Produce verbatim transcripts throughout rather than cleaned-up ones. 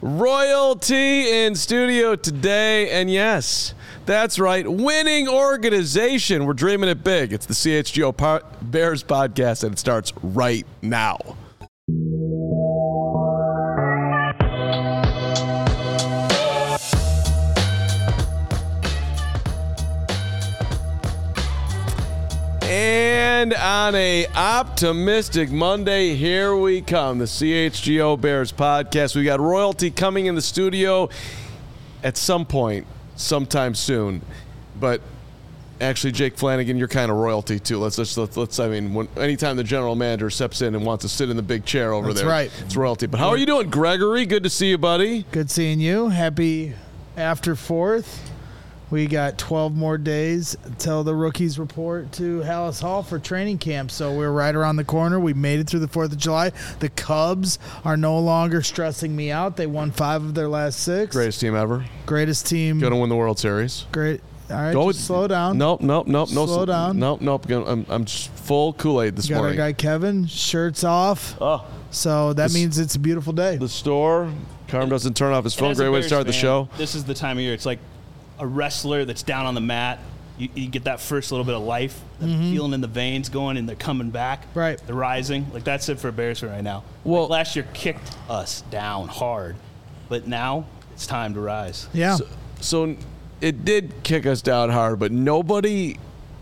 Royalty in studio today, and yes, that's right, winning organization. We're dreaming it big. It's the C H G O Bears podcast, and it starts right now. And on a optimistic Monday, here we come, the C H G O Bears podcast. We got royalty coming in the studio at some point, sometime soon. But actually, Jake Flanagan, you're kind of royalty too. Let's let's let's, let's I mean, when, anytime the general manager steps in and wants to sit in the big chair over That's there, right. It's royalty. But how are you doing, Gregory? Good to see you, buddy. Good seeing you. Happy after fourth. We got twelve more days until the rookies report to Hallis Hall for training camp. So we're right around the corner. We made it through the fourth of July. The Cubs are no longer stressing me out. They won five of their last six. Greatest team ever. Greatest team. Going to win the World Series. Great. All right, Go, just slow down. Nope, nope, nope. No, Slow down. Nope, nope. I'm, I'm just full Kool-Aid this Got morning. our guy Kevin, shirts off. Oh. So that This- means it's a beautiful day. The store. Carm doesn't turn off his phone. As a Great way to Bears start the fan, show. This is the time of year. It's like a wrestler that's down on the mat. You, you get that first little bit of life, that feeling in the veins going, and they're coming back. Right. They're rising. Like, that's it for Bears right now. Well- Like, last year kicked us down hard, but now it's time to rise. Yeah. So, so it did kick us down hard, but nobody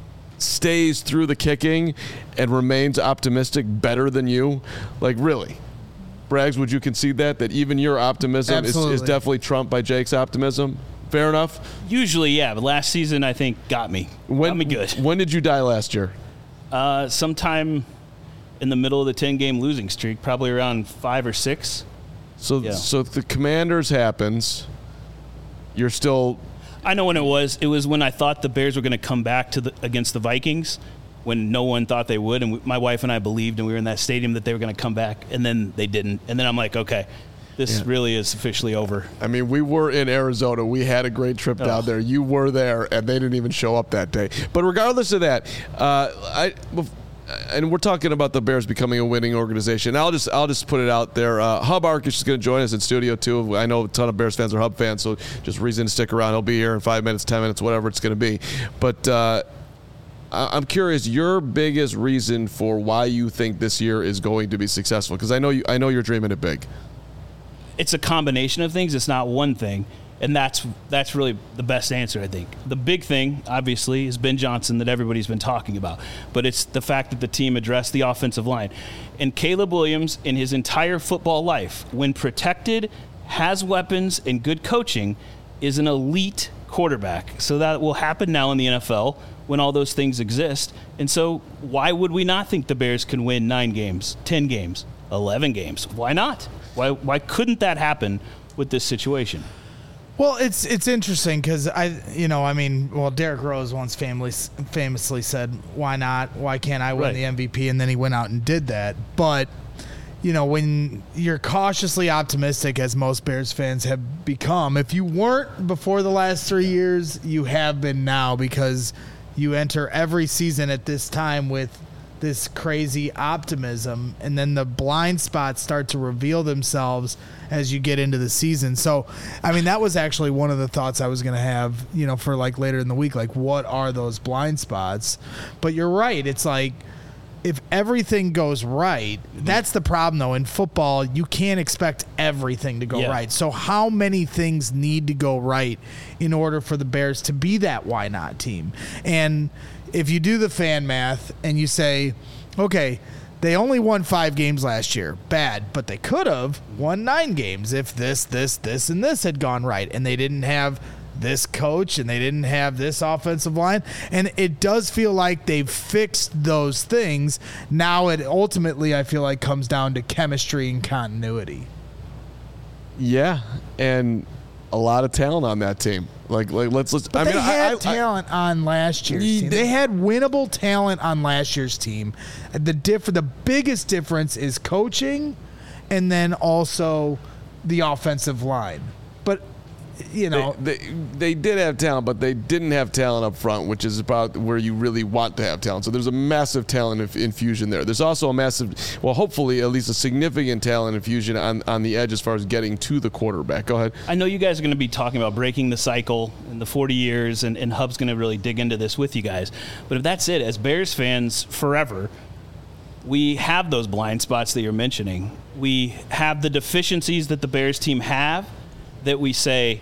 stays through the kicking and remains optimistic better than you. Like, really. Braggs, would you concede that? That even your optimism is, Absolutely. is definitely trumped by Jake's optimism? Fair enough? Usually, yeah, but last season, I think, got me. When, got me good. When did you die last year? Uh, sometime in the middle of the ten-game losing streak, probably around five or six. So, Yeah. so if the Commanders happens, you're still... I know when it was. It was when I thought the Bears were going to come back to the against the Vikings, when no one thought they would, and we, my wife and I believed, and we were in that stadium that they were going to come back, and then they didn't. And then I'm like, okay, this Yeah. really is officially over. I mean, we were in Arizona. We had a great trip down Ugh. there. You were there, and they didn't even show up that day. But regardless of that, uh, I and we're talking about the Bears becoming a winning organization. I'll just I'll just put it out there. Uh, Hub Arkish is going to join us in studio too. I know a ton of Bears fans are Hub fans, so just reason to stick around. He'll be here in five minutes, ten minutes, whatever it's going to be. But uh, I'm curious, your biggest reason for why you think this year is going to be successful, because I know you I know you're dreaming it big. It's a combination of things. It's not one thing. And that's that's really the best answer, I think. The big thing, obviously, is Ben Johnson that everybody's been talking about. But it's the fact that the team addressed the offensive line. And Caleb Williams, in his entire football life, when protected, has weapons, and good coaching, is an elite quarterback. So that will happen now in the N F L when all those things exist. And so why would we not think the Bears can win nine games, ten games, eleven games? Why not? Why why couldn't that happen with this situation? Well, it's it's interesting because I, you know, I mean, well, Derrick Rose once famously famously said, "Why not? Why can't I win Right. the M V P?" And then he went out and did that. But you know, when you're cautiously optimistic, as most Bears fans have become, if you weren't before the last three years, you have been now, because you enter every season at this time with this crazy optimism, and then the blind spots start to reveal themselves as you get into the season. So, I mean, that was actually one of the thoughts I was going to have, you know, for like later in the week, like what are those blind spots? But you're right. It's like, if everything goes right, that's the problem though. In football, you can't expect everything to go Yeah. right. So how many things need to go right in order for the Bears to be that why not team? And if you do the fan math and you say, okay, they only won five games last year, bad, but they could have won nine games if this, this, this, and this had gone right, and they didn't have this coach and they didn't have this offensive line. And it does feel like they've fixed those things. Now it ultimately, I feel like, comes down to chemistry and continuity. Yeah, and a lot of talent on that team. Like, like let's let's. But I they mean, had I, I, talent on last year's Ye- team. they- They had winnable talent on last year's team. The diff- the biggest difference is coaching, and then also the offensive line. But you know, they, they they did have talent, but they didn't have talent up front, which is about where you really want to have talent. So there's a massive talent inf- infusion there. There's also a massive, well, hopefully at least a significant talent infusion on, on the edge as far as getting to the quarterback. Go ahead. I know you guys are going to be talking about breaking the cycle in the forty years, and, and Hub's going to really dig into this with you guys. But if that's it, as Bears fans forever, we have those blind spots that you're mentioning. We have the deficiencies that the Bears team have that we say,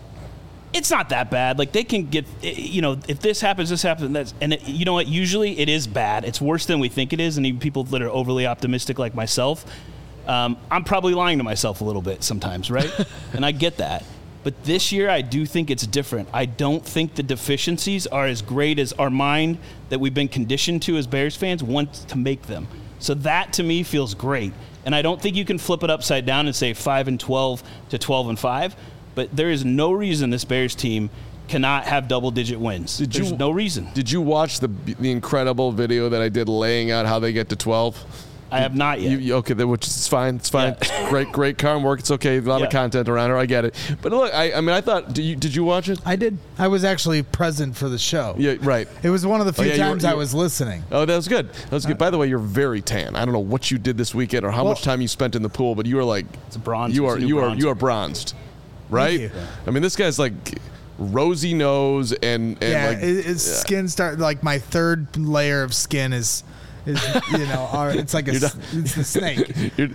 it's not that bad. Like, they can get, you know, if this happens, this happens, that's, and it, you know what, usually it is bad. It's worse than we think it is, and even people that are overly optimistic like myself, um, I'm probably lying to myself a little bit sometimes, right? And I get that. But this year, I do think it's different. I don't think the deficiencies are as great as our mind that we've been conditioned to as Bears fans wants to make them. So that, to me, feels great. And I don't think you can flip it upside down and say five and twelve to twelve and five. But there is no reason this Bears team cannot have double-digit wins. Did There's you, no reason. Did you watch the the incredible video that I did laying out how they get to twelve? I have not yet. You, you, okay, which is fine. It's fine. Yeah. Great, great car work. It's okay. A lot yeah. of content around her. I get it. But look, I, I mean, I thought. Did you did you watch it? I did. I was actually present for the show. Yeah, right. It was one of the few oh, yeah, times you were, you I was listening. Oh, that was good. That was good. By the way, you're very tan. I don't know what you did this weekend or how well, much time you spent in the pool, but you are like it's a bronze. You are it's a you bronze. are you are bronzed, right? Yeah. I mean, this guy's like rosy nose and, and yeah, like his yeah. skin start like my third layer of skin is. Is, you know, our, it's like a, it's the snake. You're,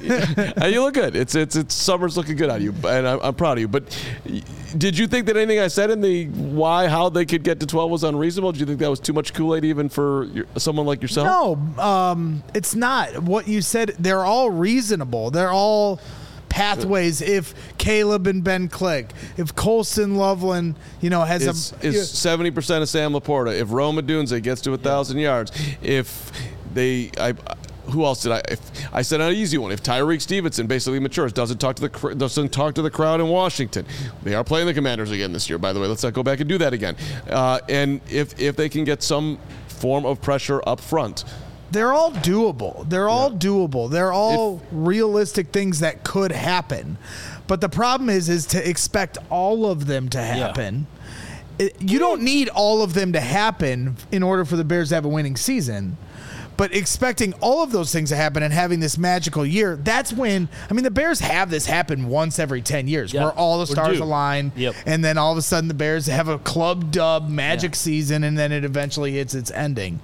well, you look good. It's it's it's summer's looking good on you, and I'm, I'm proud of you. But did you think that anything I said in the why how they could get to twelve was unreasonable? Did you think that was too much Kool-Aid even for your, someone like yourself? No, um, it's not. What you said, they're all reasonable. They're all pathways. If Caleb and Ben click, if Colston Loveland, you know, has is, a is seventy percent of Sam Laporta, if Rome Odunze gets to a thousand yeah. yards, if they, I, who else did I? If, I said an easy one. If Tyreek Stevenson basically matures, doesn't talk to the doesn't talk to the crowd in Washington, they are playing the Commanders again this year. By the way, let's not go back and do that again. Uh, and if if they can get some form of pressure up front. They're all doable. They're all yeah. doable. They're all if, realistic things that could happen. But the problem is, is to expect all of them to happen. Yeah. It, you don't need all of them to happen in order for the Bears to have a winning season. But expecting all of those things to happen and having this magical year, that's when, I mean, the Bears have this happen once every ten years yeah. where all the stars due. align. Yep. And then all of a sudden the Bears have a club dub magic yeah. season, and then it eventually hits its ending.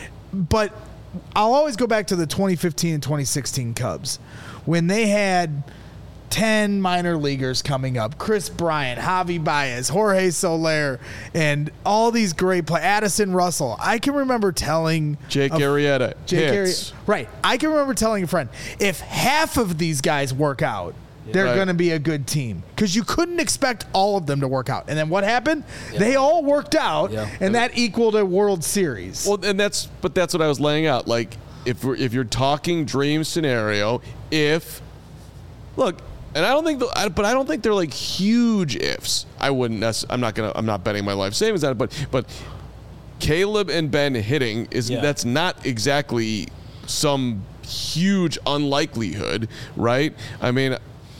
But I'll always go back to the twenty fifteen and twenty sixteen Cubs when they had ten minor leaguers coming up. Chris Bryant, Javi Baez, Jorge Soler, and all these great players. Addison Russell. I can remember telling Jake a, Arrieta. Jake hits. Arrieta. Right. I can remember telling a friend, if half of these guys work out, yeah. they're right. going to be a good team. Because you couldn't expect all of them to work out. And then what happened? Yeah. They all worked out, yeah. and that equaled a World Series. Well, and that's but that's what I was laying out. Like, if we're, if you're talking dream scenario, if look, and I don't think, the, I, but I don't think they're like huge ifs. I wouldn't. I'm not gonna. I'm not betting my life savings on it. But but Caleb and Ben hitting is yeah. that's not exactly some huge unlikelihood, right? I mean,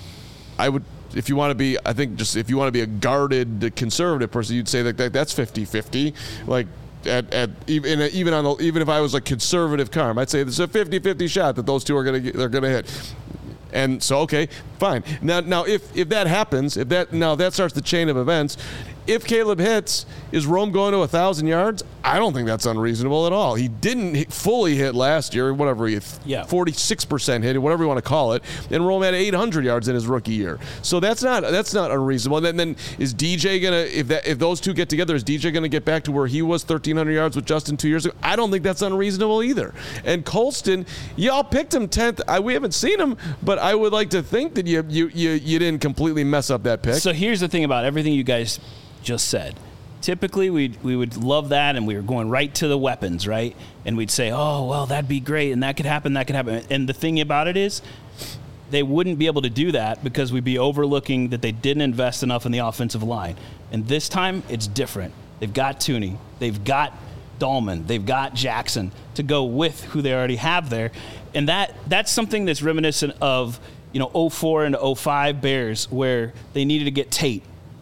I would. If you want to be, I think just if you want to be a guarded conservative person, you'd say that, that that's fifty-fifty. Like at, at even even on the, even if I was a conservative Carm, I'd say there's a fifty-fifty shot that those two are gonna get, they're gonna hit. And so, okay, fine. Now, now, if if that happens, if that now that starts the chain of events, if Caleb hits, is Rome going to a thousand yards? I don't think that's unreasonable at all. He didn't hit, fully hit last year, whatever he yeah. forty-six percent hit, whatever you want to call it, and Rome had eight hundred yards in his rookie year. So that's not that's not unreasonable. And then, then is D J gonna if that if those two get together, is D J gonna get back to where he was thirteen hundred yards with Justin two years ago? I don't think that's unreasonable either. And Colston, y'all picked him tenth. I, we haven't seen him, but I would like to think that you you you you didn't completely mess up that pick. So here's the thing about everything you guys just said. Typically, we we would love that, and we were going right to the weapons, right? And we'd say, oh, well, that'd be great, and that could happen, that could happen. And the thing about it is, they wouldn't be able to do that because we'd be overlooking that they didn't invest enough in the offensive line. And this time, it's different. They've got Tooney. They've got Dahlman. They've got Jackson to go with who they already have there. And that that's something that's reminiscent of, you know, oh four and oh five Bears, where they needed to get Tate.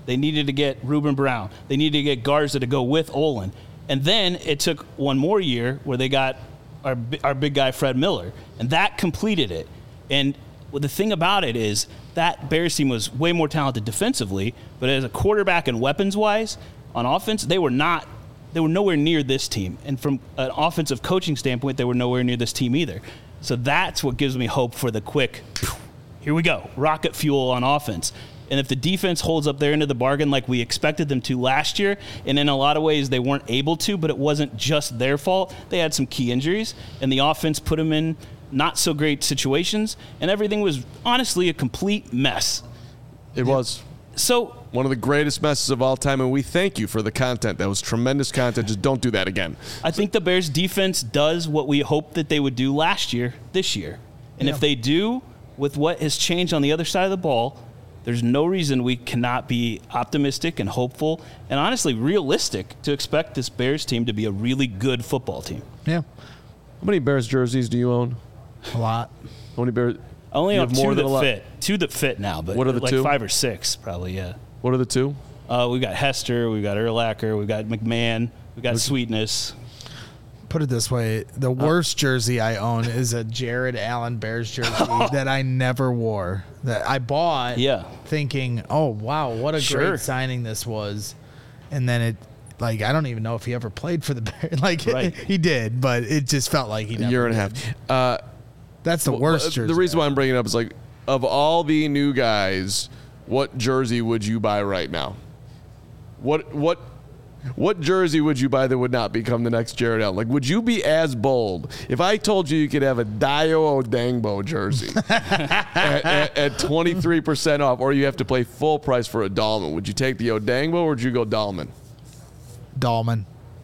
They needed to get Reuben Brown. They needed to get Garza to go with Olin. And then it took one more year where they got our our big guy Fred Miller, and that completed it. And well, the thing about it is that Bears team was way more talented defensively, but as a quarterback and weapons-wise, on offense, they were not. They were nowhere near this team. And from an offensive coaching standpoint, they were nowhere near this team either. So that's what gives me hope for the quick, here we go, rocket fuel on offense. And if the defense holds up their end of the bargain like we expected them to last year, and in a lot of ways they weren't able to, but it wasn't just their fault. They had some key injuries, and the offense put them in not so great situations, and everything was honestly a complete mess. It was. So one of the greatest messes of all time, and we thank you for the content. That was tremendous content. Just don't do that again. I think the Bears defense does what we hoped that they would do last year, this year. And yeah. if they do, with what has changed on the other side of the ball, there's no reason we cannot be optimistic and hopeful and honestly realistic to expect this Bears team to be a really good football team. Yeah. How many Bears jerseys do you own? A lot. How many Bears? I only you have, have two more that than a lot? fit. Two that fit now, but what are the like two? five or six probably, yeah. What are the two? Uh, we've got Hester, we've got Urlacher, we've got McMahon, we've got Sweetness. Put it this way, the worst jersey I own is a Jared Allen Bears jersey that I never wore. That I bought yeah. thinking, oh, wow, what a Sure. great signing this was. And then it, like, I don't even know if he ever played for the Bears. Like, Right. he did, but it just felt like he never A year and did. a half. Uh, That's the well, worst uh, jersey. The reason why I'm bringing it up is, like, of all the new guys, what jersey would you buy right now? What what what jersey would you buy that would not become the next Jared Allen? Like, would you be as bold if I told you you could have a Dio Odangbo jersey at, at, at twenty-three percent off, or you have to pay full price for a Dahlman? Would you take the Odangbo, or would you go Dahlman? Dahlman.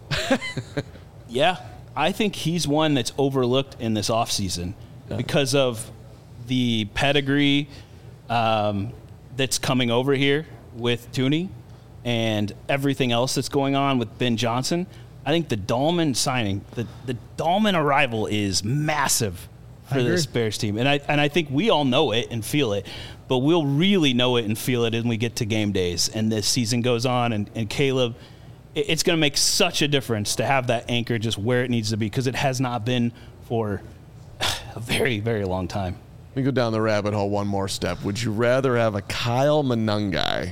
Yeah, I think he's one that's overlooked in this offseason Yeah. because of the pedigree um, that's coming over here with Tooney and everything else that's going on with Ben Johnson. I think the Dahlman signing, the, the Dahlman arrival is massive for this Bears team. And I and I think we all know it and feel it, but we'll really know it and feel it when we get to game days and this season goes on. And, and Caleb, it, it's going to make such a difference to have that anchor just where it needs to be, because it has not been for a very, very long time. Let me go down the rabbit hole one more step. Would you rather have a Kyle Monangai?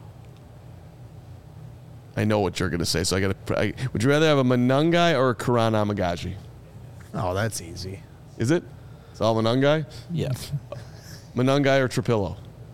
I know what you're going to say, so I got to. Would you rather have a Monangai or a Karan Amagaji? Oh, that's easy. Is it? It's all Monangai? Yeah. Monangai or Trapillo?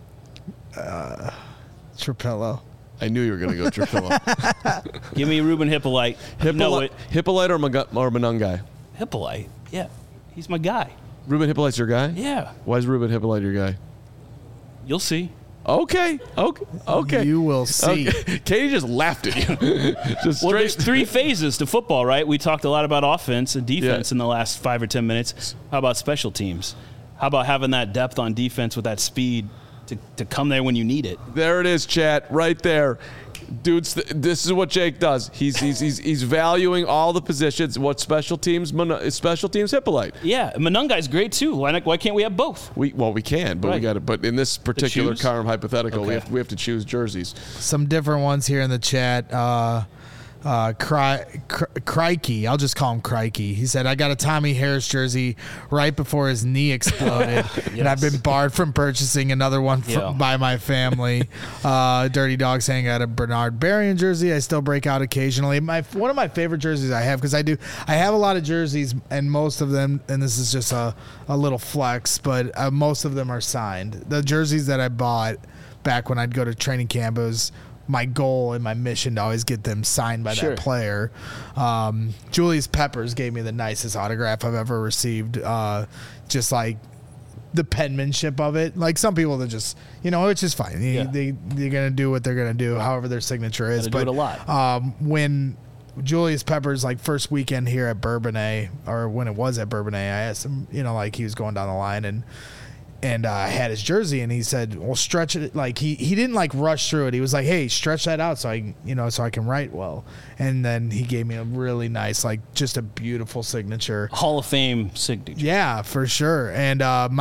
Uh, Trapillo. I knew you were going to go Trapillo. Give me Ruben Hippolyte. You know it. Hippolyte or, Maga- or Monangai? Hippolyte. Yeah. He's my guy. Ruben Hippolyte's your guy? Yeah. Why is Ruben Hippolyte your guy? You'll see. Okay. Okay. Okay. You will see. Okay. Katie just laughed at you. just Well, straight. there's three phases to football, right? We talked a lot about offense and defense Yeah. in the last five or ten minutes. How about special teams? How about having that depth on defense with that speed to, to come there when you need it? There it is, chat, right there. Dudes, th- this is what Jake does. He's he's he's, he's valuing all the positions. What special teams? Mon- special teams Hippolyte. Yeah, Monungai's great too. Why not, why can't we have both? We well we can, but we Right. got to. But in this particular choose? Carm hypothetical, we Okay. have we have to choose jerseys. Some different ones here in the chat. Uh, uh, Cry, Cry, Crikey, I'll just call him Crikey. He said, I got a Tommy Harris jersey right before his knee exploded, and I've been barred from purchasing another one fr- Yeah. by my family. Uh, Dirty Dog saying I got a Bernard Berrien jersey. I still break out occasionally. My One of my favorite jerseys I have, because I do, I have a lot of jerseys, and most of them, and this is just a, a little flex, but uh, most of them are signed. The jerseys that I bought back when I'd go to training camp, it was my goal and my mission to always get them signed by Sure. that player. Um, Julius Peppers gave me the nicest autograph I've ever received. Uh, just like the penmanship of it. Like some people that just, you know, it's just fine. Yeah. They, they're going to do what they're going to do, however their signature is. Gotta do But it a lot. Um, when Julius Peppers, like first weekend here at Bourbonnais, or when it was at Bourbonnais, I asked him, you know, like he was going down the line and and uh, I had his jersey, and he said, well, stretch it. Like he, he didn't like rush through it. He was like, hey, stretch that out so I, you know, so I can write well. And then he gave me a really nice, like just a beautiful signature. Hall of Fame signature. Yeah, for sure. And uh, my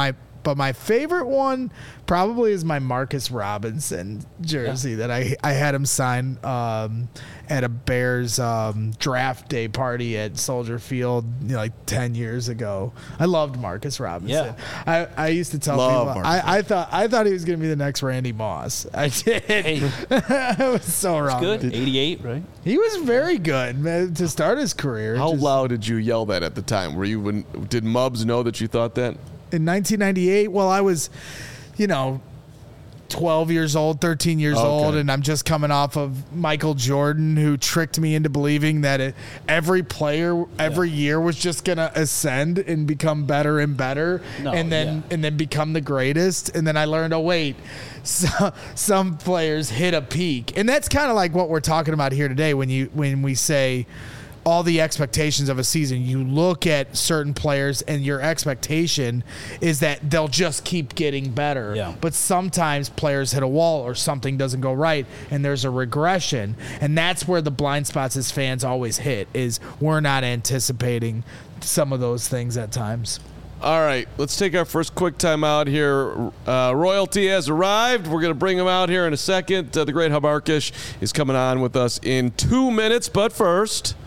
But my favorite one probably is my Marcus Robinson jersey yeah. that I I had him sign um, at a Bears um, draft day party at Soldier Field, you know, like ten years ago. I loved Marcus Robinson. Yeah. I, I used to tell Love people I, I thought I thought he was going to be the next Randy Moss. I did. Hey. I was so wrong. Good. eighty-eight, right? He was very good, man, to start his career. How Just, loud did you yell that at the time? Were you when did Mubs know that you thought that? in nineteen ninety-eight, well, I was, you know, twelve years old, thirteen years Okay. old, and I'm just coming off of Michael Jordan, who tricked me into believing that it, every player every yeah. year was just going to ascend and become better and better, no, and then yeah. and then become the greatest. And then I learned, oh wait, so, some players hit a peak, and that's kind of like what we're talking about here today when you when we say all the expectations of a season. You look at certain players and your expectation is that they'll just keep getting better. Yeah. But sometimes players hit a wall or something doesn't go right and there's a regression. And that's where the blind spots as fans always hit, is we're not anticipating some of those things at times. All right, let's take our first quick time out here. Uh, Royalty has arrived. We're going to bring him out here in a second. Uh, the great Hub Arkush is coming on with us in two minutes. But first,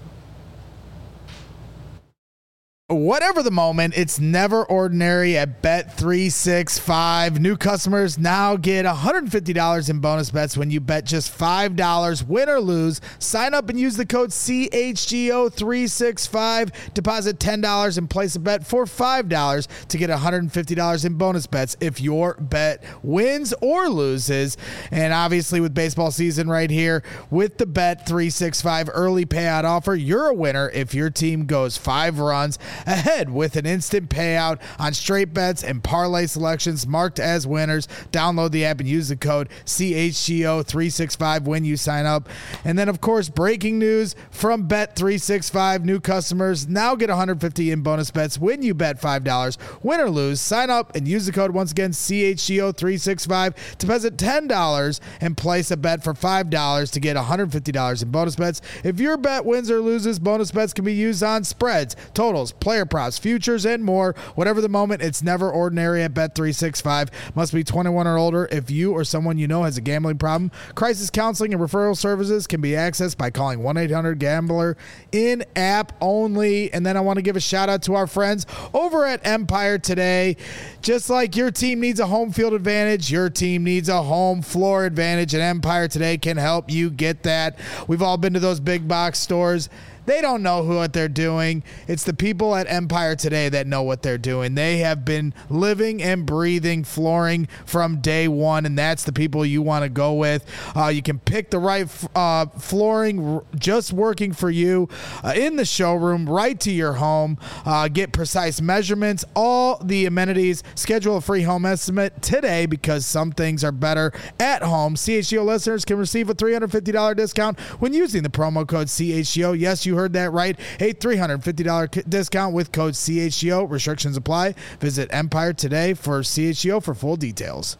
whatever the moment, it's never ordinary at Bet three sixty-five. New customers now get one hundred fifty dollars in bonus bets when you bet just five dollars, win or lose. Sign up and use the code C H G O three sixty-five. Deposit ten dollars and place a bet for five dollars to get one hundred fifty dollars in bonus bets if your bet wins or loses. And obviously with baseball season right here, with the Bet three sixty-five early payout offer, you're a winner if your team goes five runs ahead with an instant payout on straight bets and parlay selections marked as winners. Download the app and use the code C H G O three sixty-five when you sign up. And then, of course, breaking news from Bet three sixty-five. New customers now get one hundred fifty dollars in bonus bets when you bet five dollars, win or lose. Sign up and use the code, once again, C H G O three sixty-five. Deposit ten dollars and place a bet for five dollars to get one hundred fifty dollars in bonus bets. If your bet wins or loses, bonus bets can be used on spreads, totals, player props, futures, and more. Whatever the moment, it's never ordinary at Bet three sixty-five. Must be twenty-one or older. If you or someone you know has a gambling problem, crisis counseling and referral services can be accessed by calling one eight hundred gambler in app only. And then I want to give a shout out to our friends over at Empire Today. Just like your team needs a home field advantage, your team needs a home floor advantage, and Empire Today can help you get that. We've all been to those big box stores. They don't know who what they're doing. It's the people at Empire Today that know what they're doing. They have been living and breathing flooring from day one, and that's the people you want to go with. Uh, you can pick the right uh, flooring just working for you uh, in the showroom, right to your home. Uh, get precise measurements, all the amenities. Schedule a free home estimate today, because some things are better at home. C H G O listeners can receive a three hundred fifty dollars discount when using the promo code C H G O. Yes, you You heard that right. A three hundred fifty dollars discount with code C H G O. Restrictions apply. Visit Empire Today for C H G O for full details.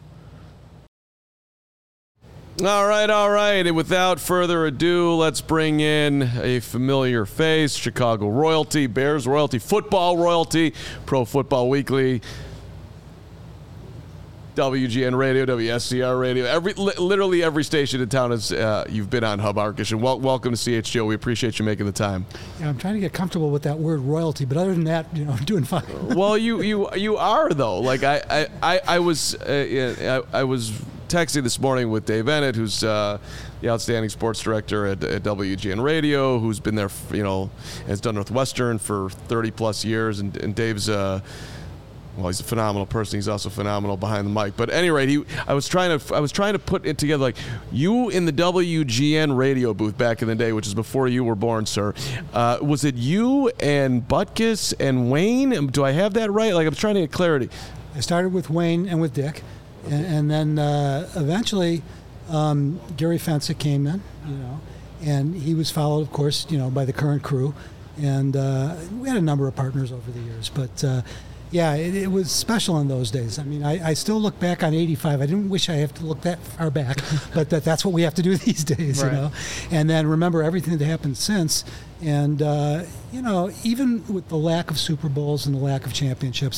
All right, all right. And without further ado, let's bring in a familiar face, Chicago royalty, Bears royalty, football royalty, Pro Football Weekly, W G N Radio, W S C R Radio, every li- literally every station in town is uh, you've been on, Hub Arkush, and wel- welcome to C H G O. We appreciate you making the time. Yeah, I'm trying to get comfortable with that word royalty, but other than that, you know, I'm doing fine. Well, you you you are though. Like I I, I, I was uh, I, I was texting this morning with Dave Ennett, who's uh, the outstanding sports director at, at W G N Radio, who's been there, for, you know, has done Northwestern for thirty plus years, and, and Dave's. Uh, Well, he's a phenomenal person. He's also phenomenal behind the mic. But at any rate, he, I was trying to I was trying to put it together, like you in the W G N radio booth back in the day, which is before you were born, sir. Uh, was it you and Butkus and Wayne? Do I have that right? Like, I'm trying to get clarity. I started with Wayne and with Dick, and, and then uh, eventually um, Gary Fensick came in, you know, and he was followed, of course, you know, by the current crew, and uh, we had a number of partners over the years, but. Uh, Yeah, it, it was special in those days. I mean, I, I still look back on eighty-five. I didn't wish I have to look that far back, but that, that's what we have to do these days, right. You know. And then remember everything that happened since. And, uh, you know, even with the lack of Super Bowls and the lack of championships,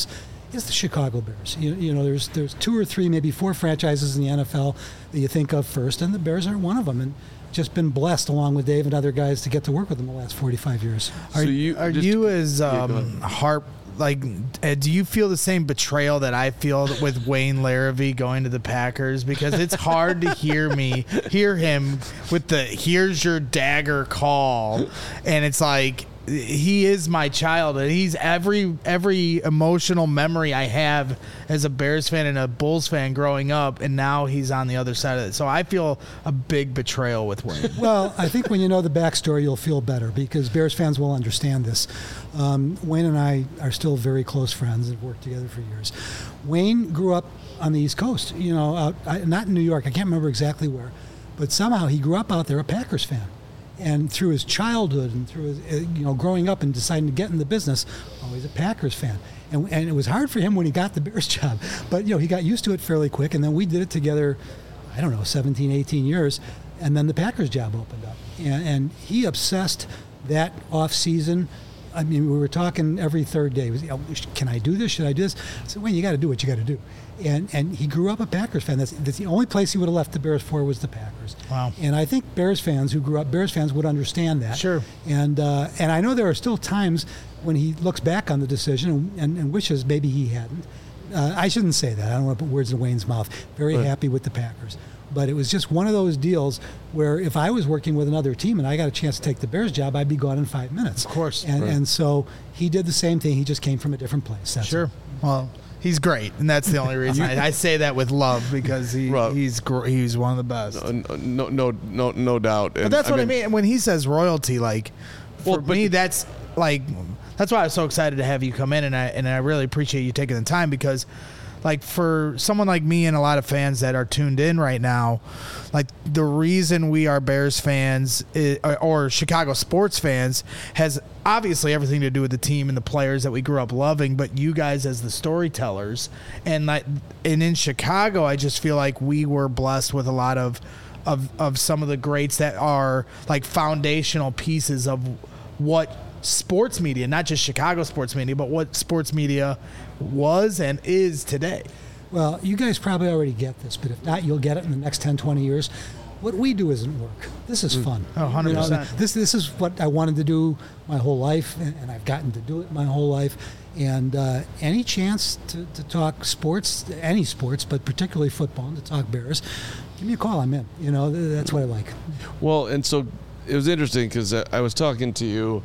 is the Chicago Bears. You, you know, there's there's two or three, maybe four franchises in the N F L that you think of first, and the Bears aren't one of them. And just been blessed, along with Dave and other guys, to get to work with them the last forty-five years. Are So you, you are just- you as Yeah, go um, ahead. harp like? Uh, do you feel the same betrayal that I feel with Wayne Larrivee going to the Packers? Because it's hard to hear me hear him with the "here's your dagger" call, and it's like. He is my child. He's every every emotional memory I have as a Bears fan and a Bulls fan growing up, and now he's on the other side of it. So I feel a big betrayal with Wayne. Well, I think when you know the backstory, you'll feel better, because Bears fans will understand this. Um, Wayne and I are still very close friends and have worked together for years. Wayne grew up on the East Coast, you know, out, I, not in New York. I can't remember exactly where, but somehow he grew up out there a Packers fan. And through his childhood and through his, uh, you know, growing up and deciding to get in the business, always a Packers fan. And, and it was hard for him when he got the Bears job. But, you know, he got used to it fairly quick. And then we did it together, I don't know, seventeen, eighteen years. And then the Packers job opened up. And, and he obsessed that off season. I mean, we were talking every third day. It was, you know, can I do this? Should I do this? I said, well, you got to do what you got to do. And and he grew up a Packers fan. That's, that's the only place he would have left the Bears for was the Packers. Wow. And I think Bears fans who grew up Bears fans would understand that. Sure. And uh, and I know there are still times when he looks back on the decision and, and wishes maybe he hadn't. Uh, I shouldn't say that. I don't want to put words in Wayne's mouth. Very Right. happy with the Packers. But it was just one of those deals where if I was working with another team and I got a chance to take the Bears job, I'd be gone in five minutes. Of course. And Right. and so he did the same thing. He just came from a different place. That's Sure. all. Well, he's great, and that's the only reason I, I say that with love, because he Rob. he's gr- he's one of the best. Uh, no, no, no, no doubt. But that's what I mean. When he says royalty, like for Well, but- me, that's like that's why I was so excited to have you come in, and I and I really appreciate you taking the time, because like for someone like me and a lot of fans that are tuned in right now, like the reason we are Bears fans is, or, or Chicago sports fans has obviously everything to do with the team and the players that we grew up loving, but you guys as the storytellers, and like and in Chicago, I just feel like we were blessed with a lot of of of some of the greats that are like foundational pieces of what sports media, not just Chicago sports media, but what sports media was and is today. Well, you guys probably already get this, but if not, you'll get it in the next ten, twenty years. What we do isn't work. This is fun. Oh, one hundred percent. You know, this this is what I wanted to do my whole life, and, and I've gotten to do it my whole life. And uh, any chance to, to talk sports, any sports, but particularly football, and to talk Bears, give me a call. I'm in. You know, th- that's what I like. Well, and so it was interesting because I was talking to you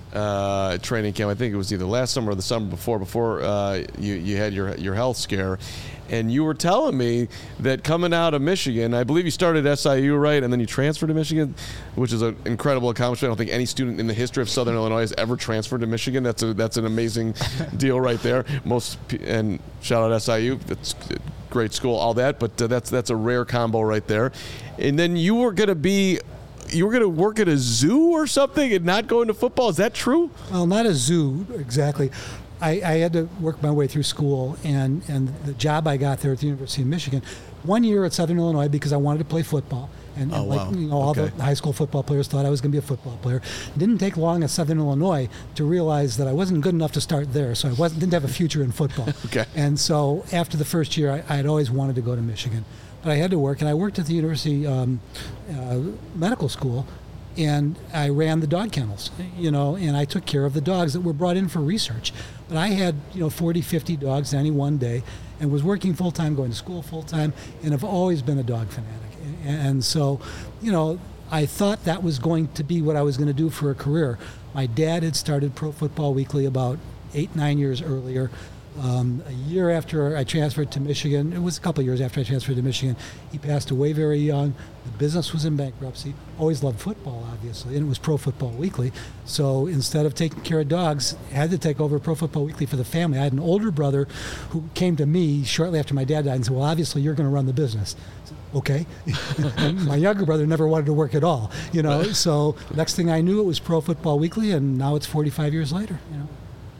uh, at training camp. I think it was either last summer or the summer before, before uh, you you had your your health scare, and you were telling me that coming out of Michigan, I believe you started at S I U, right, and then you transferred to Michigan, which is an incredible accomplishment. I don't think any student in the history of Southern Illinois has ever transferred to Michigan. That's a that's an amazing deal right there. Most pe- and shout out S I U. That's a great school, all that, but uh, that's that's a rare combo right there. And then you were going to be. You were going to work at a zoo or something and not go into football. Is that true? Well, not a zoo exactly. I, I had to work my way through school, and, and the job I got there at the University of Michigan, one year at Southern Illinois because I wanted to play football. And, Oh, and like wow. you know, all Okay. the high school football players thought I was going to be a football player. It didn't take long at Southern Illinois to realize that I wasn't good enough to start there, so I wasn't didn't have a future in football. Okay. And so after the first year, I, I had always wanted to go to Michigan, but I had to work, and I worked at the University um, uh, Medical School. And I ran the dog kennels, you know, and I took care of the dogs that were brought in for research. But I had, you know, forty, fifty dogs any one day, and was working full-time, going to school full-time, and have always been a dog fanatic. And so, you know, I thought that was going to be what I was going to do for a career. My dad had started Pro Football Weekly about eight, nine years earlier. Um, a year after I transferred to Michigan, it was a couple of years after I transferred to Michigan, he passed away very young. The business was in bankruptcy. Always loved football, obviously, and it was Pro Football Weekly. So instead of taking care of dogs, I had to take over Pro Football Weekly for the family. I had an older brother who came to me shortly after my dad died and said, well, obviously you're going to run the business. I said, okay. And my younger brother never wanted to work at all, you know. So next thing I knew, it was Pro Football Weekly, and now it's forty-five years later, you know.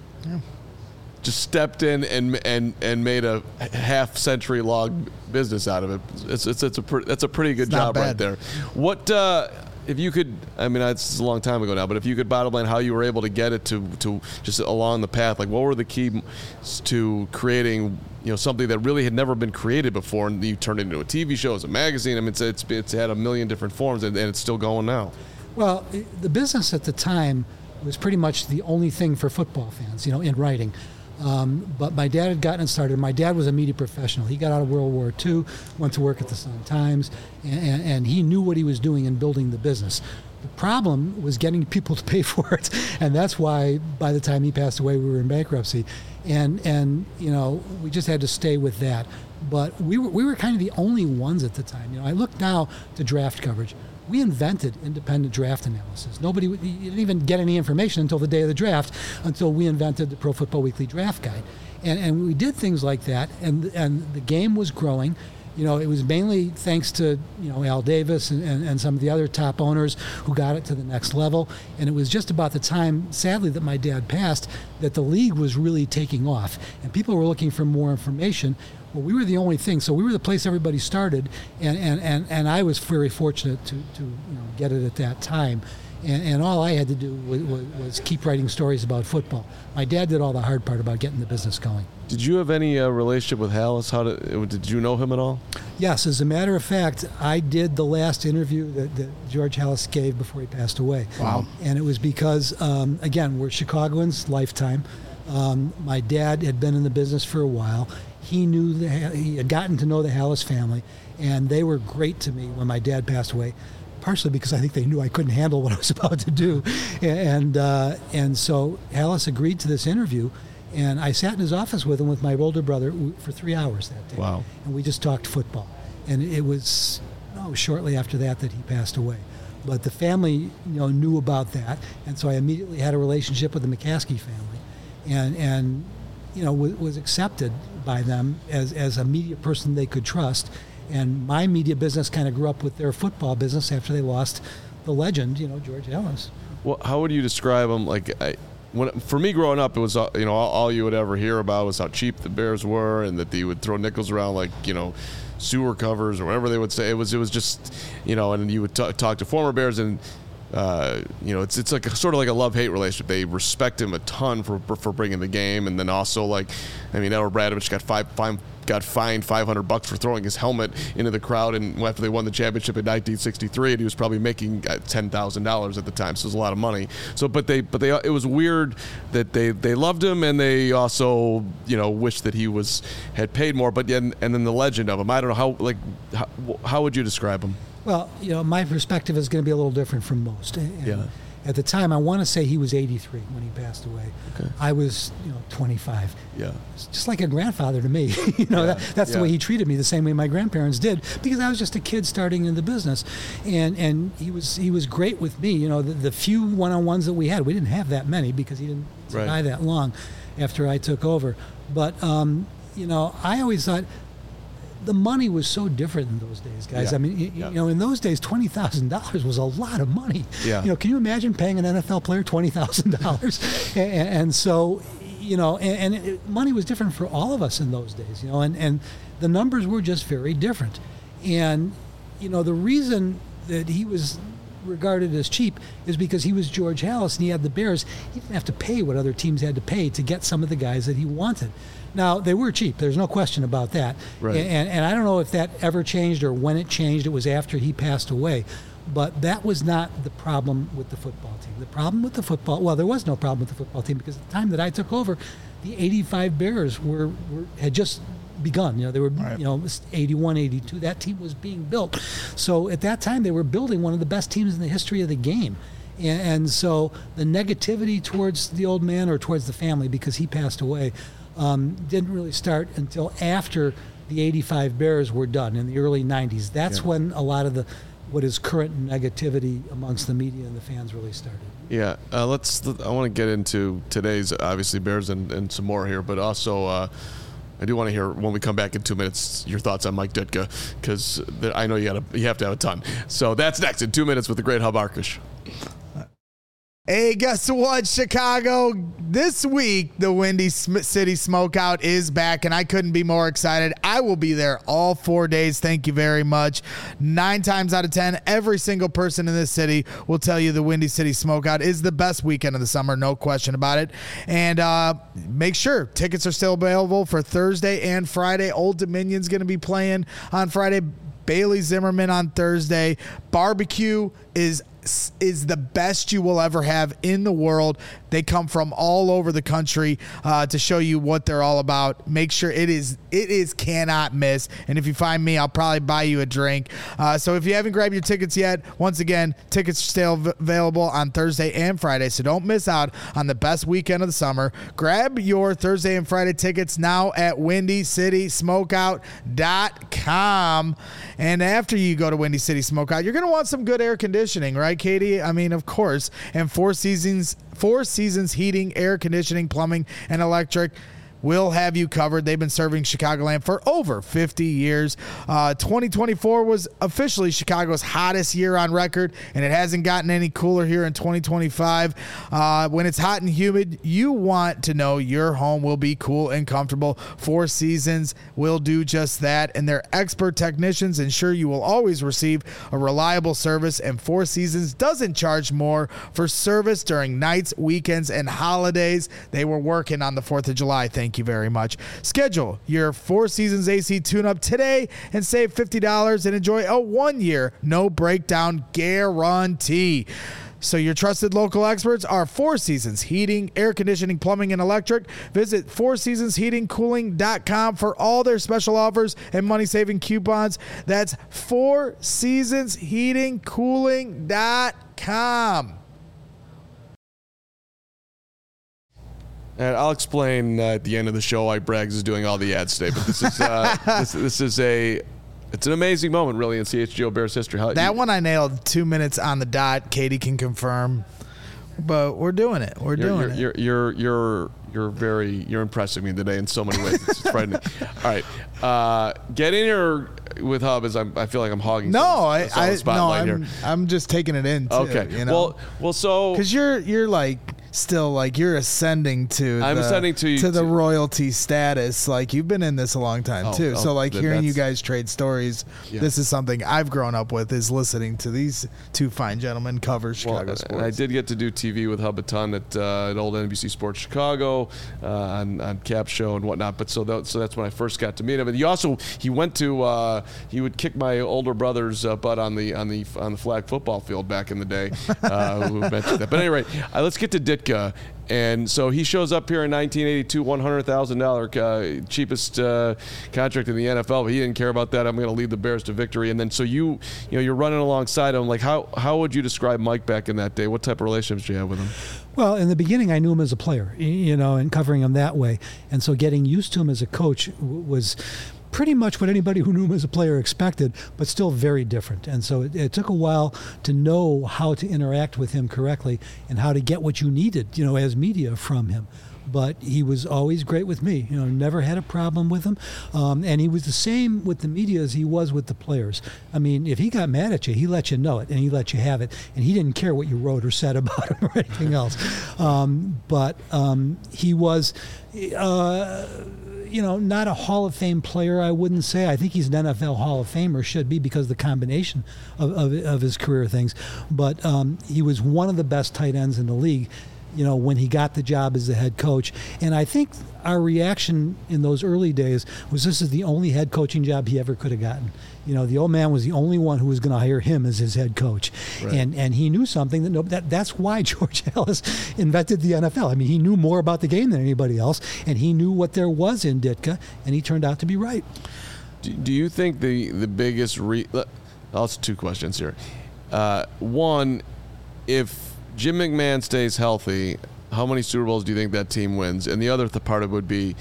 Just stepped in and and and made a half century long business out of it. It's it's, it's a pre- that's a pretty good It's not job right bad. there. What uh, if you could, I mean, it's a long time ago now, but if you could bottom line how you were able to get it to, to just along the path, like what were the keys to creating, you know, something that really had never been created before, and you turned it into a T V show, as a magazine. I mean, it's it's, it's had a million different forms, and, and it's still going now. Well, the business at the time was pretty much the only thing for football fans, you know, in writing. Um, but my dad had gotten it started. My dad was a media professional. He got out of World War Two, went to work at the Sun-Times, and, and, and he knew what he was doing in building the business. The problem was getting people to pay for it, and that's why by the time he passed away, we were in bankruptcy. And, and you know, we just had to stay with that. But we were, we were kind of the only ones at the time. You know, I look now to draft coverage. We invented independent draft analysis. Nobody, you didn't even get any information until the day of the draft, until we invented the Pro Football Weekly Draft Guide. And, and we did things like that, and, and the game was growing. You know, it was mainly thanks to, you know, Al Davis and, and, and some of the other top owners who got it to the next level. And it was just about the time, sadly, that my dad passed, that the league was really taking off. And people were looking for more information. Well, we were the only thing. So we were the place everybody started. And, and, and, and I was very fortunate to, to you know, get it at that time. And, and all I had to do was, was, was keep writing stories about football. My dad did all the hard part about getting the business going. Did you have any uh, relationship with Halas? How did, did you know him at all? Yes, as a matter of fact, I did the last interview that, that George Halas gave before he passed away. Wow. And it was because, um, again, we're Chicagoans, lifetime. Um, my dad had been in the business for a while. He knew the, he had gotten to know the Halas family, and they were great to me when my dad passed away. Partially because I think they knew I couldn't handle what I was about to do. And uh, and so Halas agreed to this interview, and I sat in his office with him with my older brother for three hours that day. Wow. And we just talked football. And it was oh, shortly after that that he passed away. But the family, you know, knew about that, and so I immediately had a relationship with the McCaskey family, and, and you know, w- was accepted by them as, as a media person they could trust. And my media business kind of grew up with their football business after they lost the legend, you know, George Halas. Well, how would you describe him? Like, I, when for me growing up, it was uh, you know all, all you would ever hear about was how cheap the Bears were, and that they would throw nickels around like you know sewer covers or whatever they would say. It was it was just you know, and you would t- talk to former Bears and. Uh, you know, it's it's like a, sort of like a love-hate relationship. They respect him a ton for for bringing the game, and then also like, I mean, Edward Bradovich got five, five got fined five hundred bucks for throwing his helmet into the crowd, and after they won the championship in nineteen sixty-three, and he was probably making ten thousand dollars at the time, so it was a lot of money. So, but they but they it was weird that they they loved him, and they also you know wished that he was had paid more. But and and then the legend of him, I don't know how like how, how would you describe him? Well, you know, my perspective is going to be a little different from most. And Yeah. At the time, I want to say he was eighty-three when he passed away. Okay. I was, you know, twenty-five. Yeah. It's just like a grandfather to me. you know, Yeah. that, that's Yeah. the way he treated me, the same way my grandparents did, because I was just a kid starting in the business, and and he was he was great with me. You know, the, the few one-on-ones that we had, we didn't have that many because he didn't Right. die that long after I took over. But um, you know, I always thought. The money was so different in those days, guys. Yeah. I mean, you, Yeah. you know, in those days, twenty thousand dollars was a lot of money. Yeah. You know, can you imagine paying an N F L player twenty thousand dollars? and, and so, you know, and, and it, money was different for all of us in those days. You know, and and the numbers were just very different. And you know, the reason that he was regarded as cheap is because he was George Halas and he had the Bears. He didn't have to pay what other teams had to pay to get some of the guys that he wanted. Now, they were cheap. There's no question about that. Right. And, and I don't know if that ever changed or when it changed. It was after he passed away. But that was not the problem with the football team. The problem with the football, well, there was no problem with the football team because at the time that I took over, the eighty-five Bears were, were had just begun. You know, they were, Right. you know, eighty-one, eighty-two. That team was being built. So at that time, they were building one of the best teams in the history of the game. And, and so the negativity towards the old man or towards the family because he passed away um, didn't really start until after the eighty-five Bears were done in the early nineties. That's Yeah. when a lot of the what is current negativity amongst the media and the fans really started. Yeah, uh, let's. I want to get into today's obviously Bears and, and some more here, but also uh, I do want to hear when we come back in two minutes your thoughts on Mike Ditka because I know you got you have to have a ton. So that's next in two minutes with the great Hub Arkush. Hey, guess what, Chicago? This week, the Windy City Smokeout is back, and I couldn't be more excited. I will be there all four days. Thank you very much. Nine times out of ten, every single person in this city will tell you the Windy City Smokeout is the best weekend of the summer, no question about it. And uh, make sure tickets are still available for Thursday and Friday. Old Dominion's going to be playing on Friday. Bailey Zimmerman on Thursday. Barbecue is is the best you will ever have in the world. They come from all over the country uh, to show you what they're all about. Make sure it is it is cannot miss. And if you find me, I'll probably buy you a drink. Uh, so if you haven't grabbed your tickets yet, once again, tickets are still v- available on Thursday and Friday. So don't miss out on the best weekend of the summer. Grab your Thursday and Friday tickets now at windy city smokeout dot com. And after you go to Windy City Smokeout, you're going to want some good air conditioning, right, Katie? I mean, of course. And Four Seasons, Four Seasons Heating, Air Conditioning, Plumbing, and Electric will have you covered. They've been serving Chicagoland for over fifty years. Uh, twenty twenty-four was officially Chicago's hottest year on record, and it hasn't gotten any cooler here in twenty twenty-five. Uh, when it's hot and humid, you want to know your home will be cool and comfortable. Four Seasons will do just that, and their expert technicians ensure you will always receive a reliable service, and Four Seasons doesn't charge more for service during nights, weekends, and holidays. They were working on the fourth of July. Thank Thank you very much. Schedule your Four Seasons A C tune-up today and save fifty dollars and enjoy a one-year no-breakdown guarantee. So your trusted local experts are Four Seasons Heating, Air Conditioning, Plumbing, and Electric. Visit four seasons heating cooling dot com for all their special offers and money-saving coupons. That's four seasons heating cooling dot com. And I'll explain uh, at the end of the show why Braggs is doing all the ads today. But this is uh, this, this is a it's an amazing moment, really, in C H G O Bears history. How, that you, one I nailed two minutes on the dot. Katie can confirm, but we're doing it. We're you're, doing you're, it. You're you're you're you're very you're impressing me today in so many ways. It's frightening. All right, uh, get in here with Hub as I'm, I feel like I'm hogging. No, some, I, some I spotlight no, I'm, here. I'm just taking it in. Too, Okay. You know? Well, well, so because you're you're like. Still, like you're ascending to I'm the, ascending to- to the to- royalty status. Like you've been in this a long time Oh, too. oh, so like th- hearing you that's- guys trade stories, Yeah. this is something I've grown up with. Is listening to these two fine gentlemen cover Chicago Well, sports. and I did get to do T V with Hub a ton at, uh, at old N B C Sports Chicago uh, on, on Cap Show and whatnot. But so that, so that's when I first got to meet him. And he also he went to uh, he would kick my older brother's uh, butt on the on the on the flag football field back in the day. Uh, who mentioned that. But anyway, uh, let's get to Ditka. And so he shows up here in nineteen eighty-two, one hundred thousand dollars uh, cheapest uh, contract in the N F L, but he didn't care about that. I'm going to lead the Bears to victory. And then so you, you know, you're running alongside him. Like how how would you describe Mike back in that day? What type of relationships do you have with him? Well, in the beginning, I knew him as a player, y- you know, and covering him that way. And so getting used to him as a coach w- was pretty much what anybody who knew him as a player expected, but still very different. And so it, it took a while to know how to interact with him correctly and how to get what you needed, you know, as media from him. But he was always great with me, you know, never had a problem with him. Um, and he was the same with the media as he was with the players. I mean, if he got mad at you, he let you know it and he let you have it. And he didn't care what you wrote or said about him or anything else. Um, but um, he was... Uh, you know, not a Hall of Fame player, I wouldn't say. I think he's an N F L Hall of Famer, should be, because of the combination of, of, of his career things. But um, he was one of the best tight ends in the league, you know, when he got the job as the head coach. And I think our reaction in those early days was this is the only head coaching job he ever could have gotten. You know, the old man was the only one who was going to hire him as his head coach. Right. And and he knew something that, no, that that's why George Ellis invented the N F L. I mean, he knew more about the game than anybody else, and he knew what there was in Ditka, and he turned out to be right. Do, do you think the the biggest re? Also, two questions here. Uh, one, if Jim McMahon stays healthy, how many Super Bowls do you think that team wins? And the other th- part of it would be,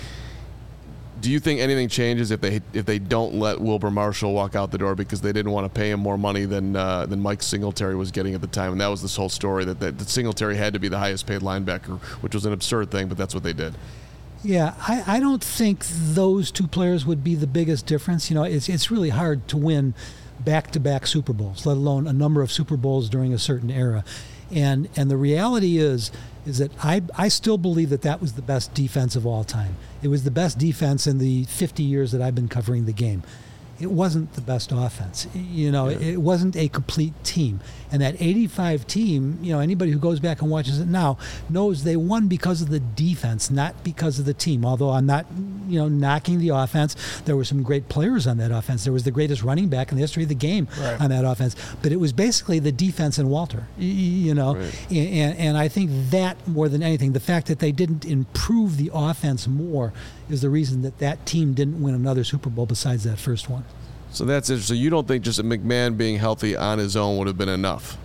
do you think anything changes if they if they don't let Wilbur Marshall walk out the door because they didn't want to pay him more money than uh, than Mike Singletary was getting at the time? And that was this whole story that, that, that Singletary had to be the highest paid linebacker, which was an absurd thing, but that's what they did. Yeah, I, I don't think those two players would be the biggest difference. You know, it's it's really hard to win back-to-back Super Bowls, let alone a number of Super Bowls during a certain era. And and the reality is is that I I still believe that that was the best defense of all time. It was the best defense in the fifty years that I've been covering the game. It wasn't the best offense. You know, yeah. It wasn't a complete team. And that eighty-five team, you know, anybody who goes back and watches it now knows they won because of the defense, not because of the team. Although I'm not, you know, knocking the offense. There were some great players on that offense. There was the greatest running back in the history of the game right. on that offense. But it was basically the defense and Walter, you know. Right. And, and I think that more than anything, the fact that they didn't improve the offense more is the reason that that team didn't win another Super Bowl besides that first one. So that's interesting. You don't think just a McMahon being healthy on his own would have been enough?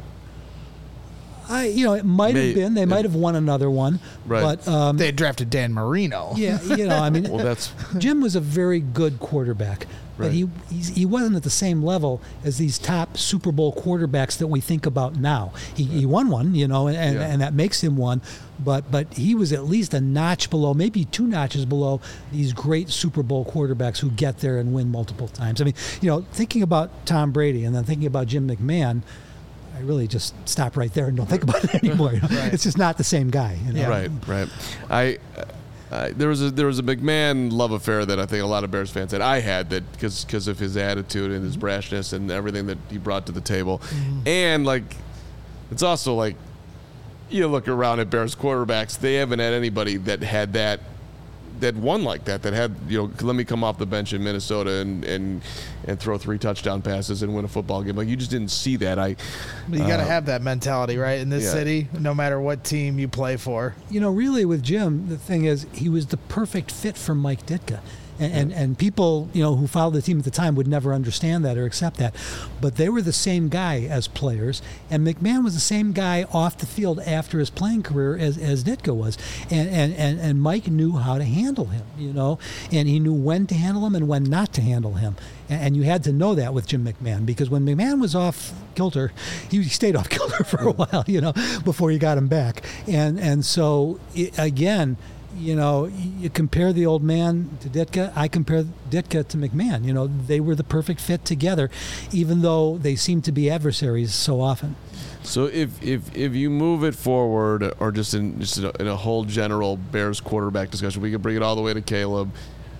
I, you know, it might May, have been. They it, might have won another one. Right. But um, they had drafted Dan Marino. Yeah, you know, I mean, well, that's Jim was a very good quarterback. But right. he he's, he wasn't at the same level as these top Super Bowl quarterbacks that we think about now. He, right. he won one, you know, and, yeah. and that makes him one. But but he was at least a notch below, maybe two notches below these great Super Bowl quarterbacks who get there and win multiple times. I mean, you know, thinking about Tom Brady and then thinking about Jim McMahon, I really just stop right there and don't think about it anymore. You know? Right. It's just not the same guy. You know? Yeah. Right, right. I. Uh, there was a there was a McMahon love affair that I think a lot of Bears fans had. I had that because because of his attitude and his brashness and everything that he brought to the table, mm-hmm. and like it's also like you look around at Bears quarterbacks, they haven't had anybody that had that that won like that that had you know let me come off the bench in Minnesota and and and throw three touchdown passes and win a football game. Like you just didn't see that. I but you got to uh, have that mentality, right, in this yeah. city, no matter what team you play for. You know, really with Jim, the thing is he was the perfect fit for Mike Ditka. And, and and people, you know, who followed the team at the time would never understand that or accept that. But they were the same guy as players. And McMahon was the same guy off the field after his playing career as, as Ditka was. And, and, and, and Mike knew how to handle him, you know. And he knew when to handle him and when not to handle him. And, and you had to know that with Jim McMahon. Because when McMahon was off kilter, he stayed off kilter for a while, you know, before you got him back. And, and so, it, again... You know, you compare the old man to Ditka. I compare Ditka to McMahon. You know, they were the perfect fit together, even though they seem to be adversaries so often. So if if, if you move it forward, or just in just in a, in a whole general Bears quarterback discussion, we can bring it all the way to Caleb,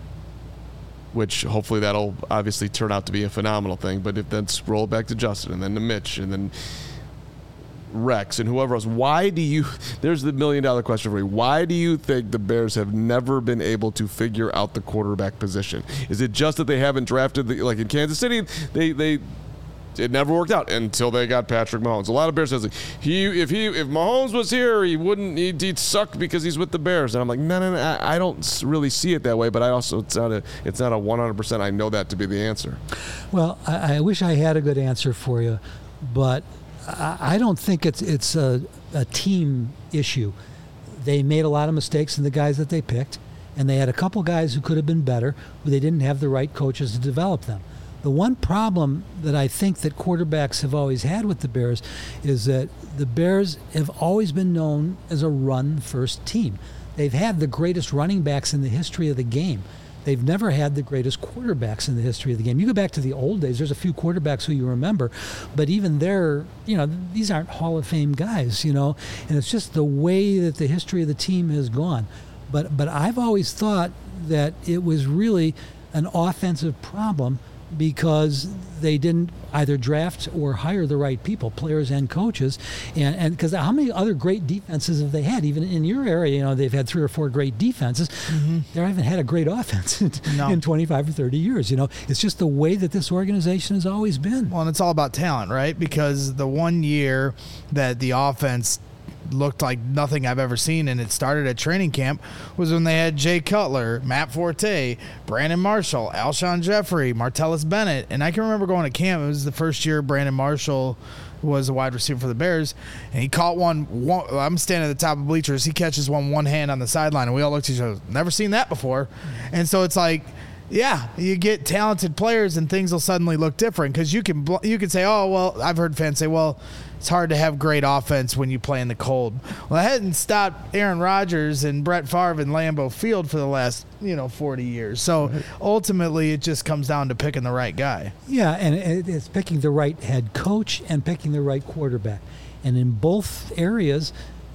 which hopefully that'll obviously turn out to be a phenomenal thing. But if then scroll back to Justin and then to Mitch and then Rex and whoever else, why do you there's the million dollar question for you. Why do you think the Bears have never been able to figure out the quarterback position? Is it just that they haven't drafted the, like in Kansas City, they they it never worked out until they got Patrick Mahomes. A lot of Bears fans like he if he if Mahomes was here, he wouldn't he'd, he'd suck because he's with the Bears. And I'm like, no, no, no, I, I don't really see it that way. But I also it's not a it's not a one hundred percent. I know that to be the answer. Well, I, I wish I had a good answer for you, but I don't think it's it's a, a team issue. They made a lot of mistakes in the guys that they picked, and they had a couple guys who could have been better, who they didn't have the right coaches to develop them. The one problem that I think that quarterbacks have always had with the Bears is that the Bears have always been known as a run-first team. They've had the greatest running backs in the history of the game. They've never had the greatest quarterbacks in the history of the game. You go back to the old days, there's a few quarterbacks who you remember, but even they're, you know, these aren't Hall of Fame guys, you know, and it's just the way that the history of the team has gone. But but I've always thought that it was really an offensive problem because they didn't either draft or hire the right people, players and coaches. And and because how many other great defenses have they had? Even in your area, you know, they've had three or four great defenses. Mm-hmm. They haven't had a great offense in, no. in twenty-five or thirty years. You know, it's just the way that this organization has always been. Well, and it's all about talent, right? Because the one year that the offense looked like nothing I've ever seen, and it started at training camp, was when they had Jay Cutler, Matt Forte, Brandon Marshall, Alshon Jeffrey, Martellus Bennett. And I can remember going to camp. It was the first year Brandon Marshall was a wide receiver for the Bears, and he caught one, one I'm standing at the top of bleachers. He catches one one hand on the sideline, and we all looked at each other, never seen that before. And so it's like, Yeah, you get talented players and things will suddenly look different because you can bl- you can say, oh, well, I've heard fans say, well, it's hard to have great offense when you play in the cold. Well, I hadn't stopped Aaron Rodgers and Brett Favre in Lambeau Field for the last, you know, forty years. So ultimately it just comes down to picking the right guy. Yeah, and it- it's picking the right head coach and picking the right quarterback. And in both areas,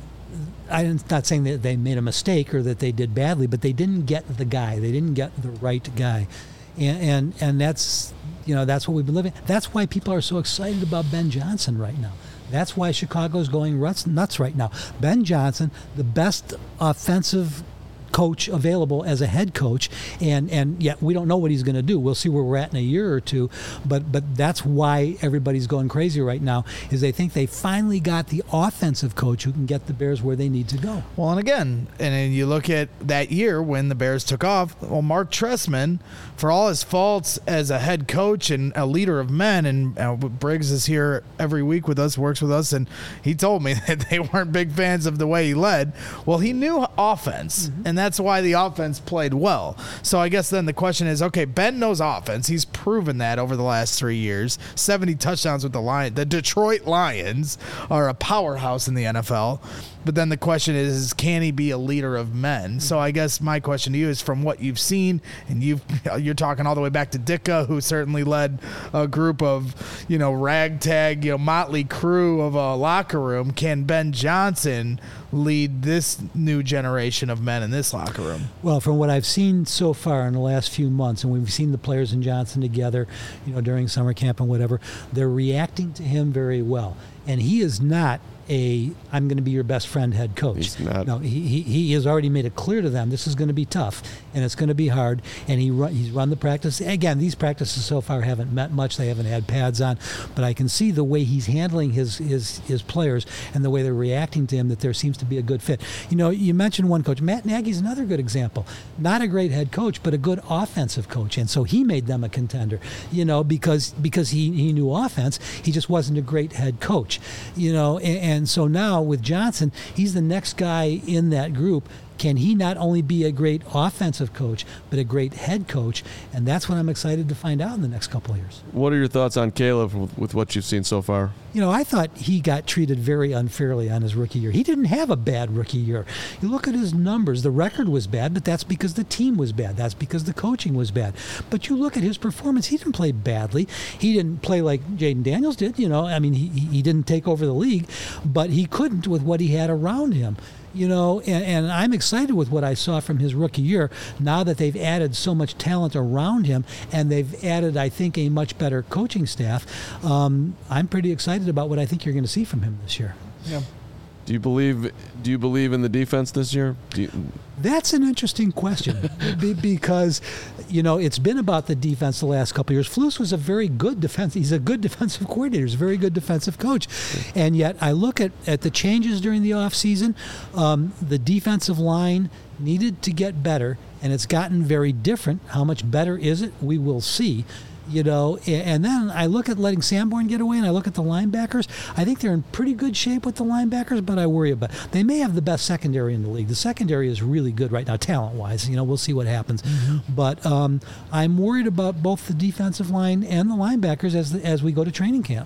I'm not saying that they made a mistake or that they did badly, but they didn't get the guy. They didn't get the right guy. And and, and that's, you know, that's what we've been living. That's why people are so excited about Ben Johnson right now. That's why Chicago's going ruts, nuts right now. Ben Johnson, the best offensive coach available as a head coach, and and yet we don't know what he's going to do. We'll see where we're at in a year or two, but but that's why everybody's going crazy right now, is they think they finally got the offensive coach who can get the Bears where they need to go. Well, and again, and then you look at that year when the Bears took off, well, Mark Trestman, for all his faults as a head coach and a leader of men, and uh, Briggs is here every week with us, works with us, and he told me that they weren't big fans of the way he led. Well, he knew offense, mm-hmm. and that's why the offense played well. So I guess then the question is, okay, Ben knows offense. He's proven that over the last three years. seventy touchdowns with the Lions. The Detroit Lions are a powerhouse in the N F L. But then the question is, is can he be a leader of men? So I guess my question to you is, from what you've seen, and you've, you're talking all the way back to Ditka, who certainly led a group of, you know, ragtag, you know, motley crew of a locker room. Can Ben Johnson lead this new generation of men in this locker room? Well, from what I've seen so far in the last few months, and we've seen the players and Johnson together, you know, during summer camp and whatever, they're reacting to him very well. And he is not a I'm going to be your best friend head coach. He's not. No, he, he he has already made it clear to them this is going to be tough and it's going to be hard. And he run, he's run the practice. Again, these practices so far haven't met much. They haven't had pads on, but I can see the way he's handling his his his players and the way they're reacting to him that there seems to be a good fit. You know, you mentioned one coach. Matt Nagy's another good example. Not a great head coach, but a good offensive coach, and so he made them a contender. You know, because because he he knew offense. He just wasn't a great head coach. You know, and, and so now with Johnson, he's the next guy in that group. Can he not only be a great offensive coach, but a great head coach? And that's what I'm excited to find out in the next couple of years. What are your thoughts on Caleb with, with what you've seen so far? You know, I thought he got treated very unfairly on his rookie year. He didn't have a bad rookie year. You look at his numbers, the record was bad, but that's because the team was bad. That's because the coaching was bad. But you look at his performance, he didn't play badly. He didn't play like Jaden Daniels did, you know. I mean, he, he didn't take over the league, but he couldn't with what he had around him. You know, and, and I'm excited with what I saw from his rookie year now that they've added so much talent around him and they've added, I think, a much better coaching staff. Um, I'm pretty excited about what I think you're going to see from him this year. Yeah. Do you believe? Do you believe in the defense this year? Do you, That's an interesting question Be- because, you know, it's been about the defense the last couple of years. Flus was a very good defense. He's a good defensive coordinator. He's a very good defensive coach. And yet I look at, at the changes during the offseason. Um, the defensive line needed to get better, and it's gotten very different. How much better is it? We will see. You know, and then I look at letting Sanborn get away, and I look at the linebackers. I think they're in pretty good shape with the linebackers, but I worry about it. They may have the best secondary in the league. The secondary is really good right now, talent-wise. You know, we'll see what happens. Mm-hmm. But um, I'm worried about both the defensive line and the linebackers as the, as we go to training camp.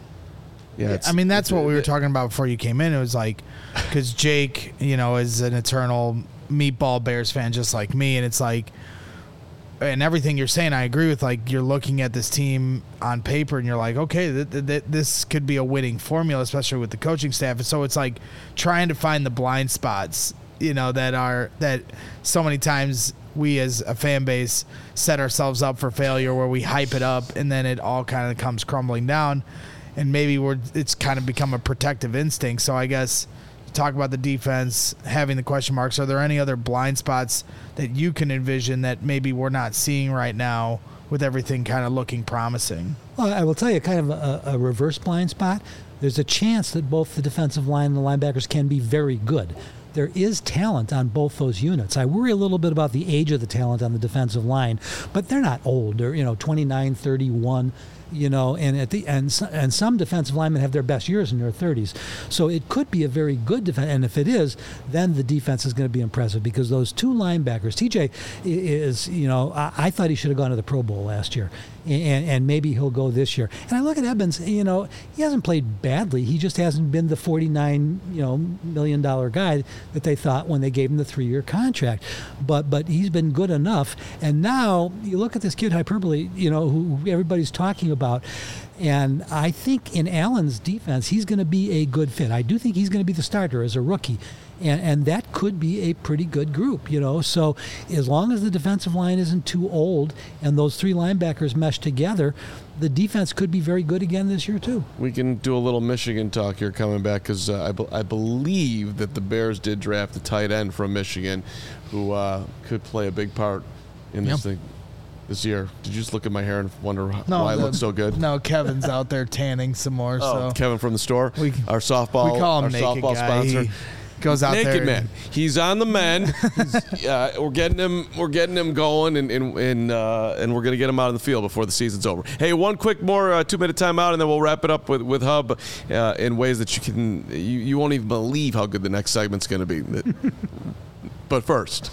yeah, I mean, that's what we were talking about before you came in. It was like, because Jake, you know, is an eternal meatball Bears fan just like me, and it's like, and everything you're saying, I agree with. Like, you're looking at this team on paper, and you're like, okay, th- th- th- this could be a winning formula, especially with the coaching staff. And so it's like trying to find the blind spots, you know, that are that so many times we as a fan base set ourselves up for failure, where we hype it up and then it all kind of comes crumbling down, and maybe we're it's kind of become a protective instinct. So I guess, talk about the defense, having the question marks. Are there any other blind spots that you can envision that maybe we're not seeing right now with everything kind of looking promising? Well, I will tell you kind of a, a reverse blind spot. There's a chance that both the defensive line and the linebackers can be very good. There is talent on both those units. I worry a little bit about the age of the talent on the defensive line, but they're not old. They're, you know, twenty-nine, thirty-one. you know, and at the and and some defensive linemen have their best years in their thirties. So it could be a very good defense, and if it is, then the defense is going to be impressive because those two linebackers, T J is, you know, I, I thought he should have gone to the Pro Bowl last year, and, and maybe he'll go this year. And I look at Edmonds, you know, he hasn't played badly. He just hasn't been the forty-nine, you know, million dollar guy that they thought when they gave him the three-year contract. But but he's been good enough. And now you look at this kid Hyperbole, you know, who everybody's talking about. About. And I think in Allen's defense, he's going to be a good fit. I do think he's going to be the starter as a rookie. And, and that could be a pretty good group, you know. So as long as the defensive line isn't too old and those three linebackers mesh together, the defense could be very good again this year, too. We can do a little Michigan talk here coming back because uh, I, be- I believe that the Bears did draft a tight end from Michigan who uh, could play a big part in this Yep. thing. This year. Did you just look at my hair and wonder No, why the- it looks so good? No, Kevin's out there tanning some more. Oh, so Kevin from the store, We- our softball, we call him our Naked softball Guy. sponsor. He goes out Naked there. Man. He's on the men. He's, uh, we're getting him. We're getting him going, and and and, uh, and we're gonna get him out in the field before the season's over. Hey, one quick more uh, two minute timeout, and then we'll wrap it up with with Hub uh, in ways that you can you, you won't even believe how good the next segment's gonna be. But first.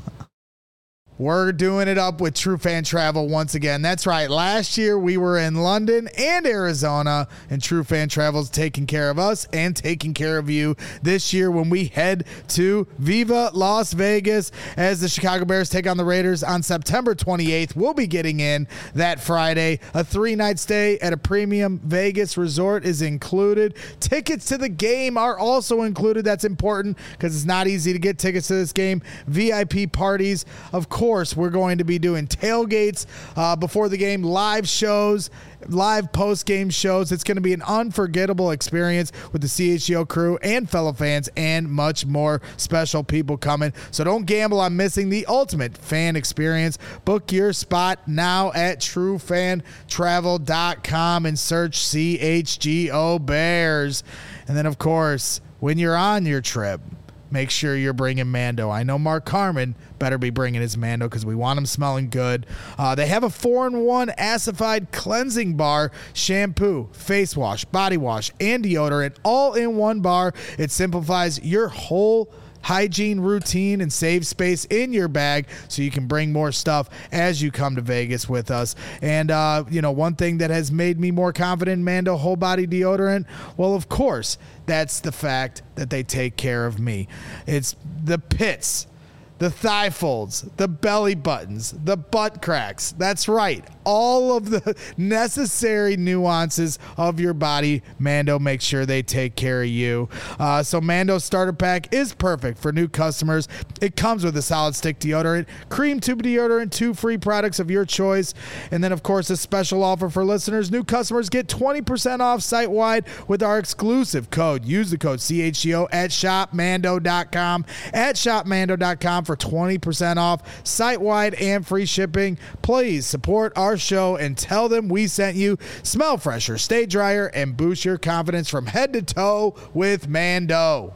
We're doing it up with True Fan Travel once again. That's right. Last year we were in London and Arizona, and True Fan Travel's taking care of us and taking care of you this year when we head to Viva Las Vegas as the Chicago Bears take on the Raiders on September twenty-eighth. We'll be getting in that Friday. A three-night stay at a premium Vegas resort is included. Tickets to the game are also included. That's important because it's not easy to get tickets to this game. V I P parties, of course. Of course, we're going to be doing tailgates uh, before the game, live shows, live post-game shows. It's going to be an unforgettable experience with the C H G O crew and fellow fans and much more special people coming. So don't gamble on missing the ultimate fan experience. Book your spot now at true fan travel dot com and search C H G O Bears. And then, of course, when you're on your trip, make sure you're bringing Mando. I know Mark Carman better be bringing his Mando because we want him smelling good. Uh, they have a four in one acidified cleansing bar, shampoo, face wash, body wash, and deodorant all in one bar. It simplifies your whole hygiene routine and save space in your bag so you can bring more stuff as you come to Vegas with us. And, uh, you know, one thing that has made me more confident in Mando whole body deodorant, well, of course, that's the fact that they take care of me. It's the pits, the thigh folds, the belly buttons, the butt cracks. That's right. All of the necessary nuances of your body, Mando makes sure they take care of you. Uh, so Mando Starter Pack is perfect for new customers. It comes with a solid stick deodorant, cream tube deodorant, two free products of your choice. And then, of course, a special offer for listeners. New customers get twenty percent off site-wide with our exclusive code. Use the code C H G O at shop mando dot com. At shop mando dot com for twenty percent off site-wide and free shipping. Please support our show and tell them we sent you. Smell fresher, stay drier, and boost your confidence from head to toe with Mando.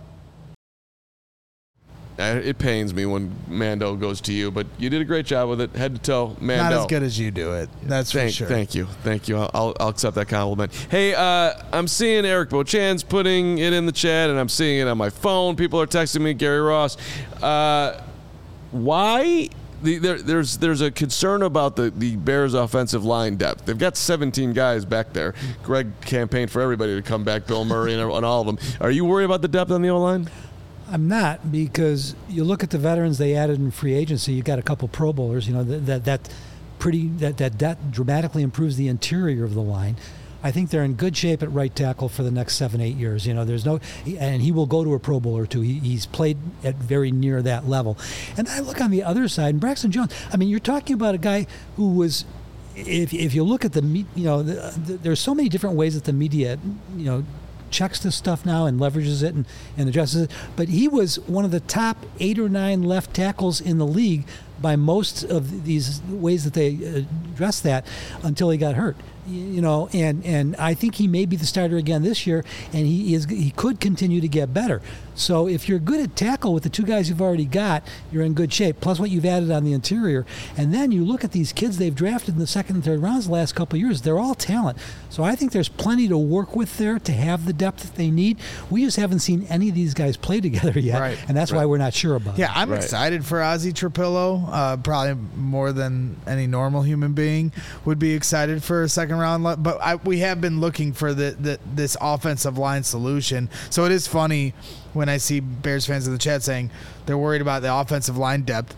It pains me when Mando goes to you, but you did a great job with it, head to toe. Mando. Not as good as you do it. That's thank, for sure. Thank you. Thank you. I'll, I'll accept that compliment. Hey, uh, I'm seeing Eric Beauchamp's putting it in the chat, and I'm seeing it on my phone. People are texting me, Gary Ross. Uh, why... The, there, there's there's a concern about the, the Bears' offensive line depth. They've got seventeen guys back there. Greg campaigned for everybody to come back, Bill Murray and, and all of them. Are you worried about the depth on the O-line? I'm not, because you look at the veterans they added in free agency. You got a couple Pro Bowlers. You know that that, that pretty that, that that dramatically improves the interior of the line. I think they're in good shape at right tackle for the next seven, eight years. You know, there's no, and he will go to a Pro Bowl or two. He, he's played at very near that level. And I look on the other side, and Braxton Jones. I mean, you're talking about a guy who was, if if you look at the, you know, the, the, there's so many different ways that the media, you know, checks this stuff now and leverages it and, and addresses it. But he was one of the top eight or nine left tackles in the league by most of these ways that they address that until he got hurt. You know, and, and I think he may be the starter again this year, and he is he could continue to get better. So if you're good at tackle with the two guys you've already got, you're in good shape, plus what you've added on the interior. And then you look at these kids they've drafted in the second and third rounds the last couple of years. They're all talent. So I think there's plenty to work with there to have the depth that they need. We just haven't seen any of these guys play together yet, Right. and that's Right. why we're not sure about it. Yeah, I'm Right. excited for Ozzie Trapillo. Uh, probably more than any normal human being would be excited for a second round. le- But I, we have been looking for the, the this offensive line solution. So it is funny when I see Bears fans in the chat saying they're worried about the offensive line depth.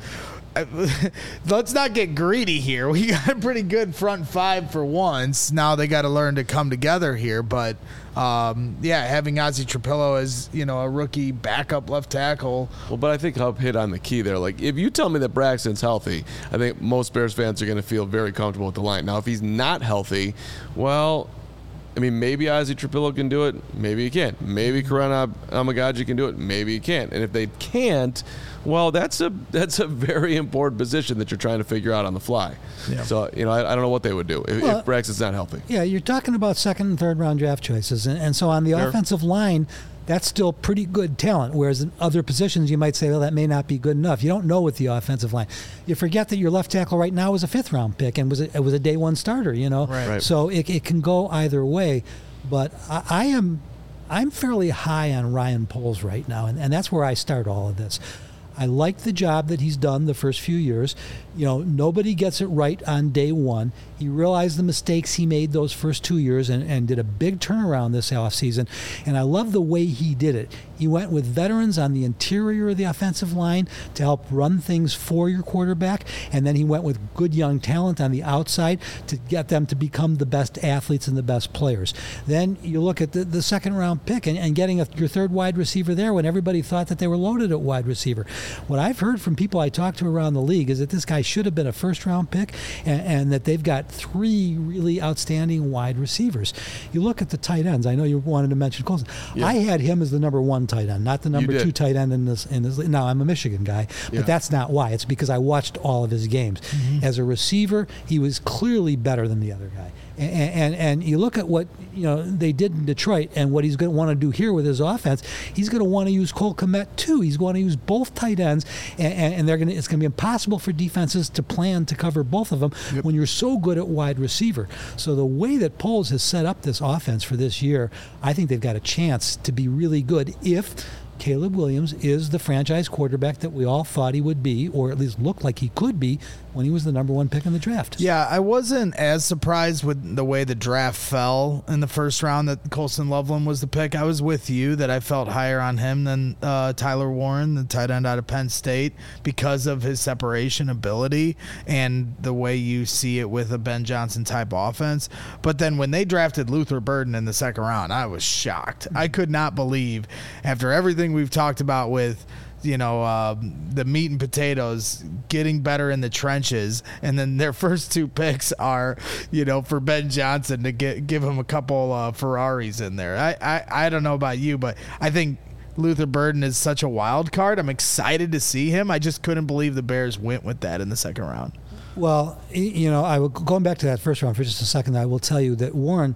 Let's not get greedy here. We got a pretty good front five for once. Now they got to learn to come together here. But um, yeah, having Ozzie Trapillo as, you know, a rookie backup left tackle. Well, but I think Hub hit on the key there. Like, if you tell me that Braxton's healthy, I think most Bears fans are going to feel very comfortable with the line. Now, if he's not healthy, well, I mean, maybe Ozzie Trapillo can do it. Maybe he can't. Maybe Karan Amagaji can do it. Maybe he can't. And if they can't, well, that's a that's a very important position that you're trying to figure out on the fly. Yeah. So, you know, I, I don't know what they would do if, Well, if Braxton's not healthy. Yeah, you're talking about second and third round draft choices. And, and so on the Fair. offensive line, that's still pretty good talent. Whereas in other positions, you might say, well, that may not be good enough. You don't know with the offensive line. You forget that your left tackle right now is a fifth round pick and was a, it was a day one starter, you know? Right. Right. So it, it can go either way. But I, I am I'm fairly high on Ryan Poles right now, and, and that's where I start all of this. I like the job that he's done the first few years. You know, nobody gets it right on day one. He realized the mistakes he made those first two years and, and did a big turnaround this offseason. And I love the way he did it. He went with veterans on the interior of the offensive line to help run things for your quarterback. And then he went with good young talent on the outside to get them to become the best athletes and the best players. Then you look at the, the second round pick and, and getting a, your third wide receiver there when everybody thought that they were loaded at wide receiver. What I've heard from people I talked to around the league is that this guy should have been a first round pick and, and that they've got three really outstanding wide receivers. You look at the tight ends. I know you wanted to mention Colson. Yeah. I had him as the number one tight end, not the number did. two tight end in this. In this. Now I'm a Michigan guy, but Yeah. that's not why. It's because I watched all of his games. As a receiver, he was clearly better than the other guy. And, and and you look at what you know they did in Detroit and what he's going to want to do here with his offense. He's going to want to use Cole Kmet too. He's going to use both tight ends, and, and, and they're going to. It's going to be impossible for defenses to plan to cover both of them Yep. when you're so good at wide receiver. So the way that Poles has set up this offense for this year, I think they've got a chance to be really good if Caleb Williams is the franchise quarterback that we all thought he would be, or at least looked like he could be when he was the number one pick in the draft. Yeah, I wasn't as surprised with the way the draft fell in the first round that Colson Loveland was the pick. I was with you that I felt higher on him than uh, Tyler Warren, the tight end out of Penn State, because of his separation ability and the way you see it with a Ben Johnson type offense. But then when they drafted Luther Burden in the second round, I was shocked. I could not believe, after everything we've talked about with you know, um, the meat and potatoes, getting better in the trenches, and then their first two picks are, you know, for Ben Johnson to get give him a couple uh, Ferraris in there. I, I, I don't know about you, but I think Luther Burden is such a wild card. I'm excited to see him. I just couldn't believe the Bears went with that in the second round. Well, y- you know, I will, going back to that first round for just a second, I will tell you that Warren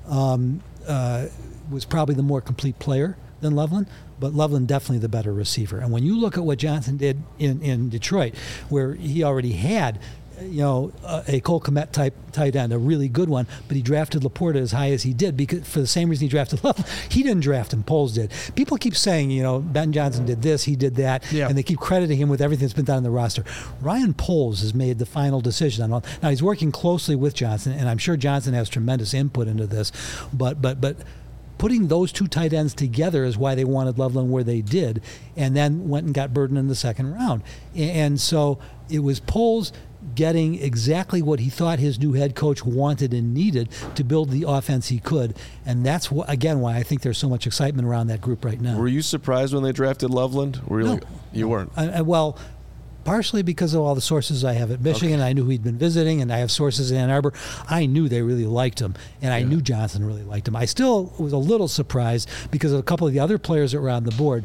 um, uh, was probably the more complete player than Loveland, but Loveland definitely the better receiver. And when you look at what Johnson did in, in Detroit, where he already had, you know, a, a Cole Kmet type tight end, a really good one, but he drafted Laporta as high as he did because for the same reason he drafted Loveland. He didn't draft him, Poles did. People keep saying, you know, Ben Johnson did this, he did that, Yeah. and they keep crediting him with everything that's been done on the roster. Ryan Poles has made the final decision on all. Now he's working closely with Johnson, and I'm sure Johnson has tremendous input into this, but but but. Putting those two tight ends together is why they wanted Loveland where they did, and then went and got Burden in the second round. And so it was Poles getting exactly what he thought his new head coach wanted and needed to build the offense he could. And that's, wh- again, why I think there's so much excitement around that group right now. Were you surprised when they drafted Loveland? Were you No. like, you weren't? I, I, well, partially because of all the sources I have at Michigan. Okay. I knew he'd been visiting, and I have sources in Ann Arbor. I knew they really liked him, and I yeah. knew Johnson really liked him. I still was a little surprised because of a couple of the other players that were on the board.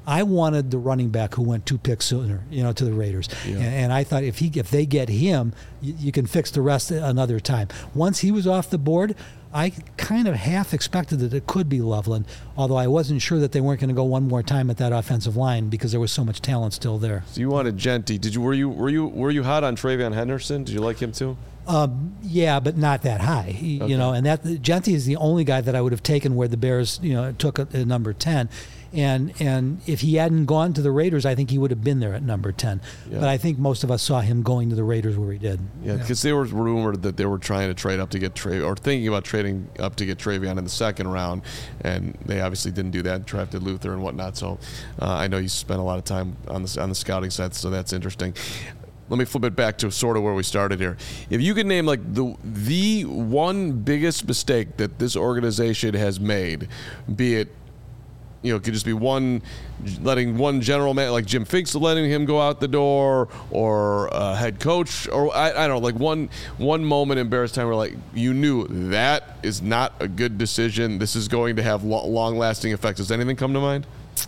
I wanted the running back who went two picks sooner, you know, to the Raiders, Yeah. and, and I thought if he if they get him, you, you can fix the rest another time. Once he was off the board, I kind of half expected that it could be Loveland, although I wasn't sure that they weren't going to go one more time at that offensive line because there was so much talent still there. So you wanted Genty. Did you were you were you were you hot on Travion Henderson? Did you like him too? Um, yeah, but not that high, you Okay. know. And that Genty is the only guy that I would have taken where the Bears, you know, took a, a number ten. And and if he hadn't gone to the Raiders, I think he would have been there at number ten. Yeah. But I think most of us saw him going to the Raiders where he did. Yeah, because there was rumored that they were trying to trade up to get Tra- or thinking about trading up to get Travion in the second round, and they obviously didn't do that. Drafted Luther and whatnot. So uh, I know you spent a lot of time on the on the scouting side, so that's interesting. Let me flip it back to sort of where we started here. If you could name like the the one biggest mistake that this organization has made, be it, you know, it could just be one, letting one general man like Jim Finks letting him go out the door, or a head coach, or I, I don't know, like one one moment in Bears time where like you knew that is not a good decision. This is going to have lo- long lasting effects. Does anything come to mind?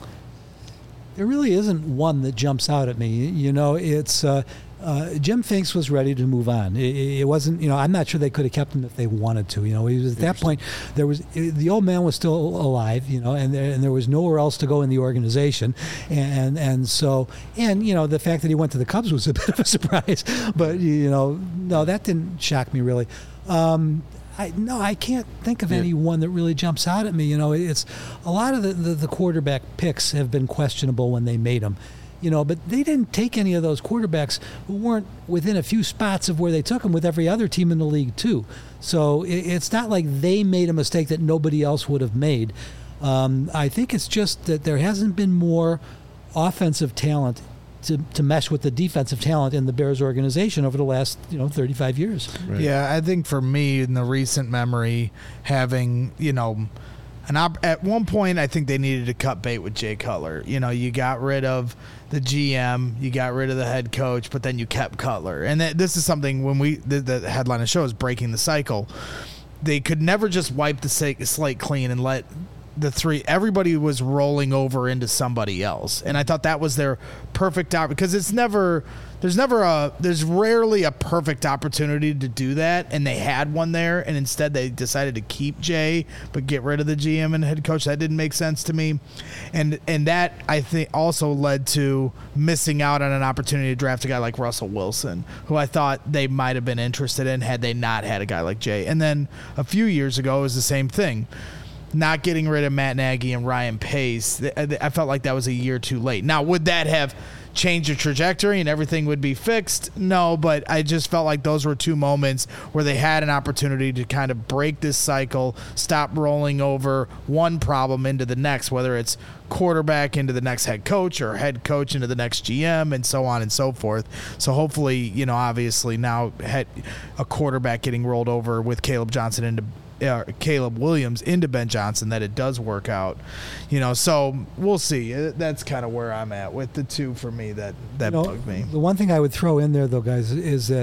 There really isn't one that jumps out at me. You know, it's uh, uh, Jim Finks was ready to move on. It, it wasn't, you know, I'm not sure they could have kept him if they wanted to. You know, he was, at that point, there was the old man was still alive. You know, and there, and there was nowhere else to go in the organization, and and so and you know the fact that he went to the Cubs was a bit of a surprise. But you know, no, that didn't shock me really. Um, I, no, I can't think of Yeah. any one that really jumps out at me. You know, it's a lot of the, the, the quarterback picks have been questionable when they made them, you know, but they didn't take any of those quarterbacks who weren't within a few spots of where they took them with every other team in the league too. So it, it's not like they made a mistake that nobody else would have made. Um, I think it's just that there hasn't been more offensive talent to, to mesh with the defensive talent in the Bears organization over the last, you know, thirty-five years. Right. Yeah, I think for me, in the recent memory, having, you know, an op- at one point, I think they needed to cut bait with Jay Cutler. You know, you got rid of the G M, you got rid of the head coach, but then you kept Cutler. And that, this is something when we, the, the headline of the show is breaking the cycle. They could never just wipe the slate clean and let the three, everybody was rolling over into somebody else. And I thought that was their perfect out, because it's never, there's never a, there's rarely a perfect opportunity to do that. And they had one there, and instead they decided to keep Jay, but get rid of the G M and head coach. That didn't make sense to me. And, and that I think also led to missing out on an opportunity to draft a guy like Russell Wilson, who I thought they might have been interested in had they not had a guy like Jay. And then a few years ago, it was the same thing. Not getting rid of Matt Nagy and Ryan Pace, I felt like that was a year too late. Now, would that have changed the trajectory and everything would be fixed? No, but I just felt like those were two moments where they had an opportunity to kind of break this cycle, stop rolling over one problem into the next, whether it's quarterback into the next head coach or head coach into the next G M and so on and so forth. So hopefully, you know, obviously now had a quarterback getting rolled over with Caleb Johnson into Uh, Caleb Williams into Ben Johnson, that it does work out, you know. So we'll see. That's kind of where I'm at with the two for me that that You know, bugged me. The one thing I would throw in there, though, guys, is that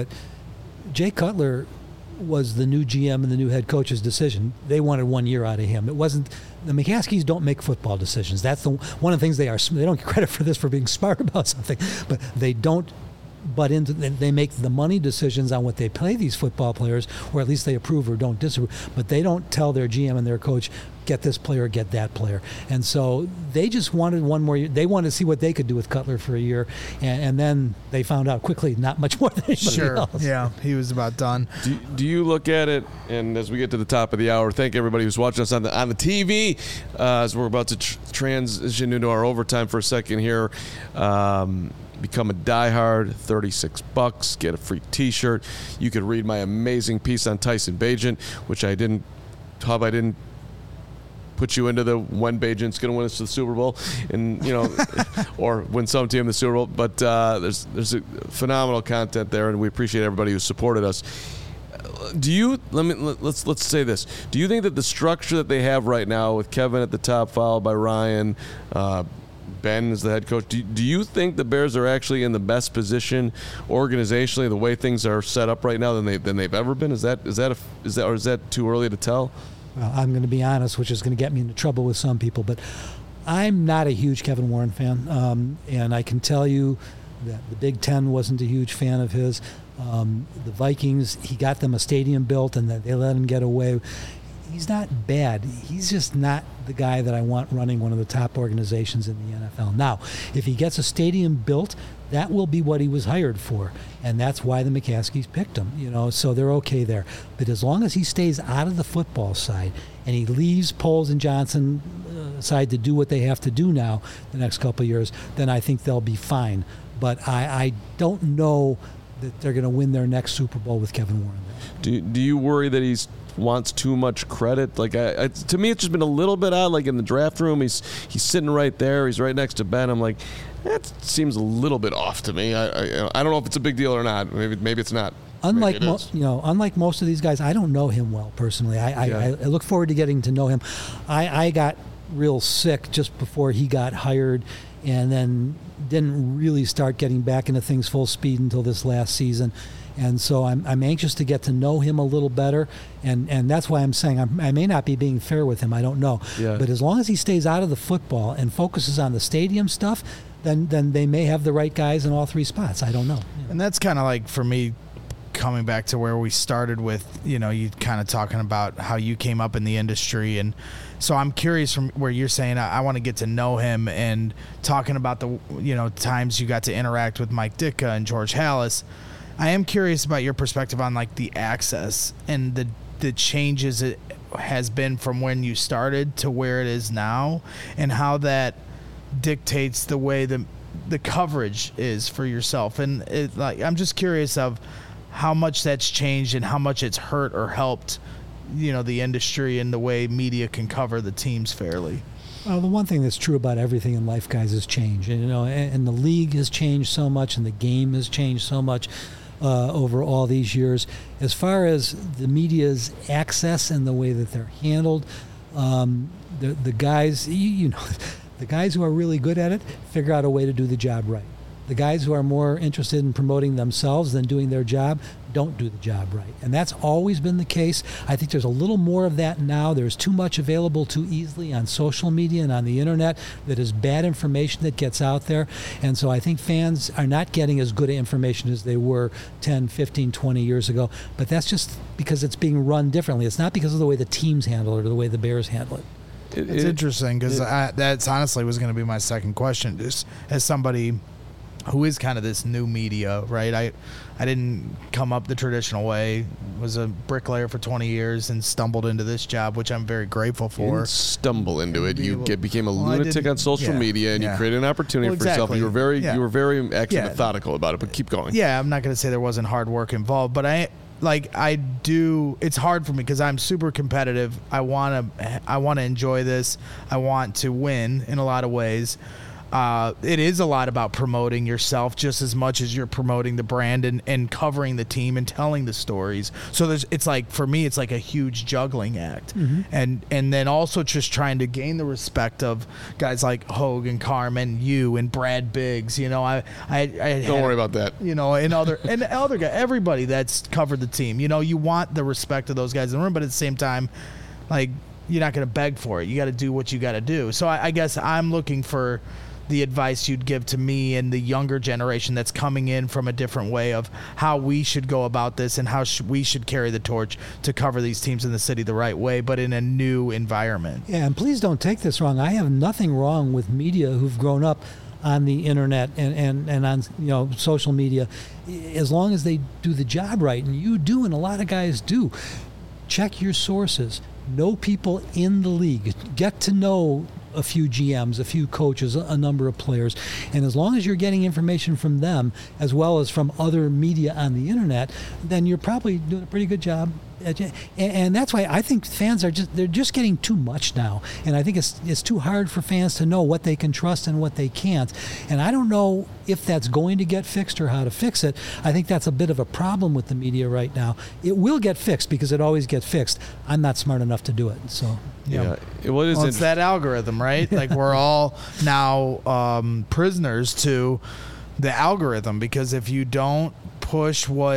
Jay Cutler was the new G M and the new head coach's decision. They wanted one year out of him. It wasn't the McCaskies don't make football decisions. That's the one of the things they are. They don't get credit for this for being smart about something, but they don't. But into they make the money decisions on what they pay these football players, or at least they approve or don't disapprove. But they don't tell their G M and their coach, get this player, get that player. And so they just wanted one more year. They wanted to see what they could do with Cutler for a year, and, and then they found out quickly not much more than anybody Sure. else. Yeah, he was about done. Do, do you look at it, and as we get to the top of the hour, thank everybody who's watching us on the on the T V, uh, as we're about to tr- transition into our overtime for a second here. Um, Become a diehard, thirty-six bucks, get a free t-shirt. You could read my amazing piece on Tyson Bagent, which I didn't, Hub, I didn't put you into the when Bagent's going to win us the Super Bowl, and you know, or win some team the Super Bowl. But uh, there's there's a phenomenal content there, and we appreciate everybody who supported us. Do you let me let's let's say this? Do you think that the structure that they have right now, with Kevin at the top, followed by Ryan, uh, Ben is the head coach, do, do you think the Bears are actually in the best position organizationally, the way things are set up right now, than they than they've ever been? Is that is that a, is that or is that too early to tell? Well, I'm going to be honest, which is going to get me into trouble with some people, but I'm not a huge Kevin Warren fan, um, and I can tell you that the Big Ten wasn't a huge fan of his. Um, the Vikings, he got them a stadium built, and they let him get away. He's not bad. He's just not the guy that I want running one of the top organizations in the N F L. Now, if he gets a stadium built, that will be what he was hired for, and that's why the McCaskies picked him. You know, so they're okay there. But as long as he stays out of the football side and he leaves Poles and Johnson uh, aside to do what they have to do now the next couple of years, then I think they'll be fine. But I, I don't know that they're going to win their next Super Bowl with Kevin Warren there. Do Do you worry that he's wants too much credit? Like I, I, to me, it's just been a little bit odd. Like in the draft room, he's he's sitting right there. He's right next to Ben. I'm like, that seems a little bit off to me. I I, I don't know if it's a big deal or not. Maybe maybe it's not. Unlike maybe it mo- is. you know, unlike most of these guys, I don't know him well personally. I Yeah. I, I look forward to getting to know him. I, I got real sick just before he got hired, and then didn't really start getting back into things full speed until this last season. And so I'm I'm anxious to get to know him a little better, and, and that's why I'm saying I'm, I may not be being fair with him. I don't know, Yeah. but as long as he stays out of the football and focuses on the stadium stuff, then then they may have the right guys in all three spots. I don't know. And that's kind of like, for me, coming back to where we started with, you know, you kind of talking about how you came up in the industry. And so I'm curious from where you're saying, I, I want to get to know him, and talking about the, you know, times you got to interact with Mike Ditka and George Halas. I am curious about your perspective on like the access and the the changes it has been from when you started to where it is now, and how that dictates the way the the coverage is for yourself. And it, like, I'm just curious of how much that's changed and how much it's hurt or helped, you know, the industry and the way media can cover the teams fairly. Well, the one thing that's true about everything in life, guys, is change. And, you know, and, and the league has changed so much, and the game has changed so much uh, over all these years. As far as the media's access and the way that they're handled, um, the the guys, you, you know, the guys who are really good at it figure out a way to do the job right. The guys who are more interested in promoting themselves than doing their job don't do the job right. And that's always been the case. I think there's a little more of that now. There's too much available too easily on social media and on the internet that is bad information that gets out there. And so I think fans are not getting as good information as they were ten, fifteen, twenty years ago. But that's just because it's being run differently. It's not because of the way the teams handle it or the way the Bears handle it. It- It's it- interesting because it- that's honestly was going to be my second question. Just as somebody who is kind of this new media, right? I I didn't come up the traditional way. Was a bricklayer for twenty years and stumbled into this job, which I'm very grateful You for. didn't stumble into it. Be You able- get, became a Well, I lunatic didn't- on social yeah, media, and yeah. you created an opportunity Well, for yourself. exactly. You were very, Yeah. you were very actually Yeah. methodical about it. But keep going. Yeah, I'm not going to say there wasn't hard work involved, but I like I do. It's hard for me because I'm super competitive. I want to I want to enjoy this. I want to win in a lot of ways. Uh, it is a lot about promoting yourself just as much as you're promoting the brand and, and covering the team and telling the stories. So there's, it's like, for me, it's like a huge juggling act. Mm-hmm. And and then also just trying to gain the respect of guys like Hogan, Carmen, you, and Brad Biggs. You know, I, I, I Don't had- worry about that. you know, and other and other guy, everybody that's covered the team. You know, you want the respect of those guys in the room, but at the same time, like, you're not going to beg for it. You got to do what you got to do. So I, I guess I'm looking for the advice you'd give to me and the younger generation that's coming in from a different way of how we should go about this and how sh- we should carry the torch to cover these teams in the city the right way, but in a new environment. Yeah, and please don't take this wrong. I have nothing wrong with media who've grown up on the internet and, and, and on, you know, social media, as long as they do the job right. And you do, and a lot of guys do. Check your sources. Know people in the league. Get to know a few G Ms, a few coaches, a number of players. And as long as you're getting information from them as well as from other media on the internet, then you're probably doing a pretty good job. And, and that's why I think fans are just, they're just getting too much now. And I think it's it's too hard for fans to know what they can trust and what they can't. And I don't know if that's going to get fixed or how to fix it. I think that's a bit of a problem with the media right now. It will get fixed because it always gets fixed. I'm not smart enough to do it. So, Yeah. Yeah. It, well, it is Well, it's interesting. that algorithm, right? Like, we're all now um, prisoners to the algorithm, because if you don't push what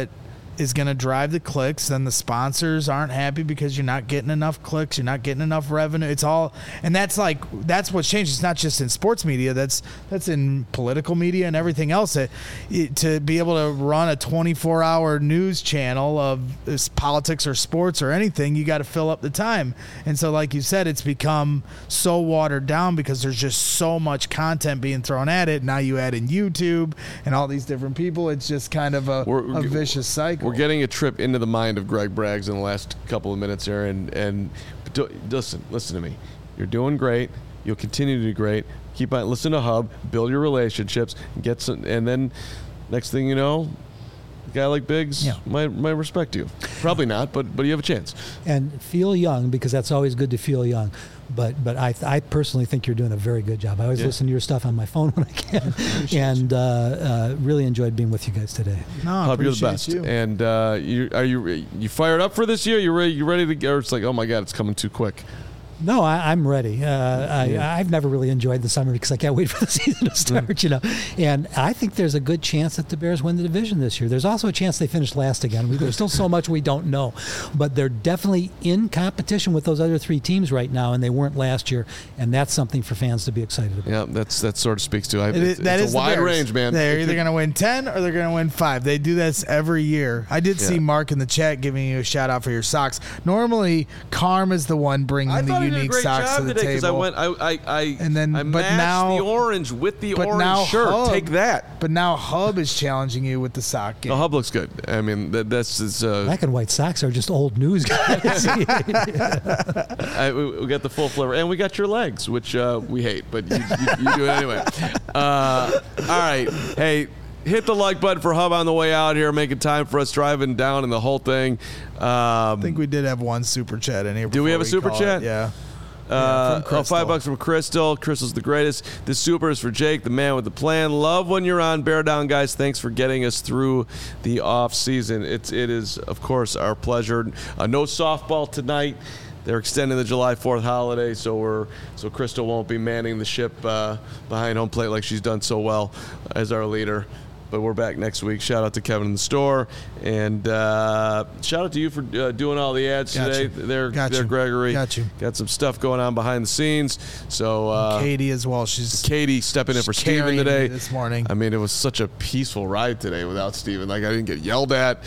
is going to drive the clicks. Then the sponsors aren't happy because you're not getting enough clicks, you're not getting enough revenue. It's all, and that's like that's what's changed. It's not just in sports media. That's that's in political media and everything else. It, it, to be able to run a twenty-four hour news channel of this politics or sports or anything, you got to fill up the time. And so, like you said, it's become so watered down because there's just so much content being thrown at it. Now you add in YouTube and all these different people. It's just kind of a, We're- a vicious cycle. We're getting a trip into the mind of Greg Braggs in the last couple of minutes here, and and do, listen, listen to me. You're doing great. You'll continue to do great. Keep on listen to Hub, build your relationships, get some, and then next thing you know, a guy like Biggs Yeah. might might respect you. Probably not, but but you have a chance. And feel young, because that's always good to feel young. But but I I personally think you're doing a very good job. I always Yeah. listen to your stuff on my phone when I can, and uh, uh, really enjoyed being with you guys today. No, I Hub, you're the appreciate best. you. And uh, you are you you fired up for this year? You ready? You ready to go? It's like, oh my God, it's coming too quick. No, I, I'm ready. Uh, I, Yeah. I've never really enjoyed the summer because I can't wait for the season to start, you know. And I think there's a good chance that the Bears win the division this year. There's also a chance they finish last again. We, there's still so much we don't know. But they're definitely in competition with those other three teams right now, and they weren't last year. And that's something for fans to be excited about. Yeah, that's that sort of speaks to. I, It it's, is, that it's is a the wide Bears. range, man. They're It either could- going to win ten or they're going to win five. They do this every year. I did see Yeah. Mark in the chat giving you a shout out for your socks. Normally, Carm is the one bringing I the thought he did a unique great socks job to the today because I table. went, I, I, I, And then- I but matched now- the orange with the but orange now shirt. Hub- Take that. But now Hub is challenging you with the sock game. The Hub looks good. I mean, that, that's it's, uh, Black and white socks are just old news, guys. I, we we got the full flavor, and we got your legs, which uh, we hate, but you, you, you do it anyway. Uh, all right, hey. Hit the like button for Hub on the way out here, making time for us driving down and the whole thing. Um, I think we did have one super chat in here. Do we before have a super call chat? it. Yeah. Uh, from Crystal. oh, five bucks from Crystal. Crystal's the greatest. The super is for Jake, the man with the plan. Love when you're on. Bear down, guys. Thanks for getting us through the off season. It's it is of course our pleasure. Uh, no softball tonight. They're extending the July fourth holiday, so we're so Crystal won't be manning the ship uh, behind home plate like she's done so well as our leader. But we're back next week. Shout out to Kevin in the store, and uh, shout out to you for uh, doing all the ads Got today. you. There, Got there, you. Gregory. Got you. Got some stuff going on behind the scenes. So uh, Katie as well. She's Katie stepping in for she's Steven carrying today me this morning. I mean, it was such a peaceful ride today without Steven. Like, I didn't get yelled at.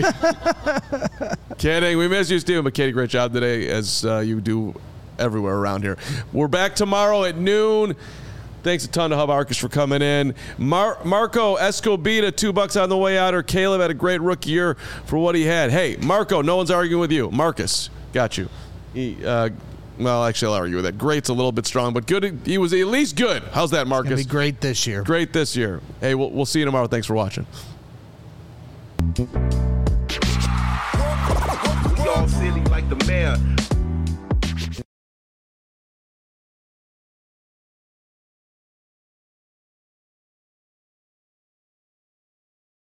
Kidding. We miss you, Steven. But Katie, great job today, as uh, you do everywhere around here. We're back tomorrow at noon. Thanks a ton to Hub Arkush for coming in. Mar- Marco Escobita, two bucks on the way out. Or Caleb had a great rookie year for what he had. Hey, Marco, no one's arguing with you. Marcus, got you. He, uh, well, actually, I'll argue with that. Great's a little bit strong, but good. He was at least good. How's that, Gonna Marcus? be great this year. Great this year. Hey, we'll, we'll see you tomorrow. Thanks for watching. We all silly like the mayor.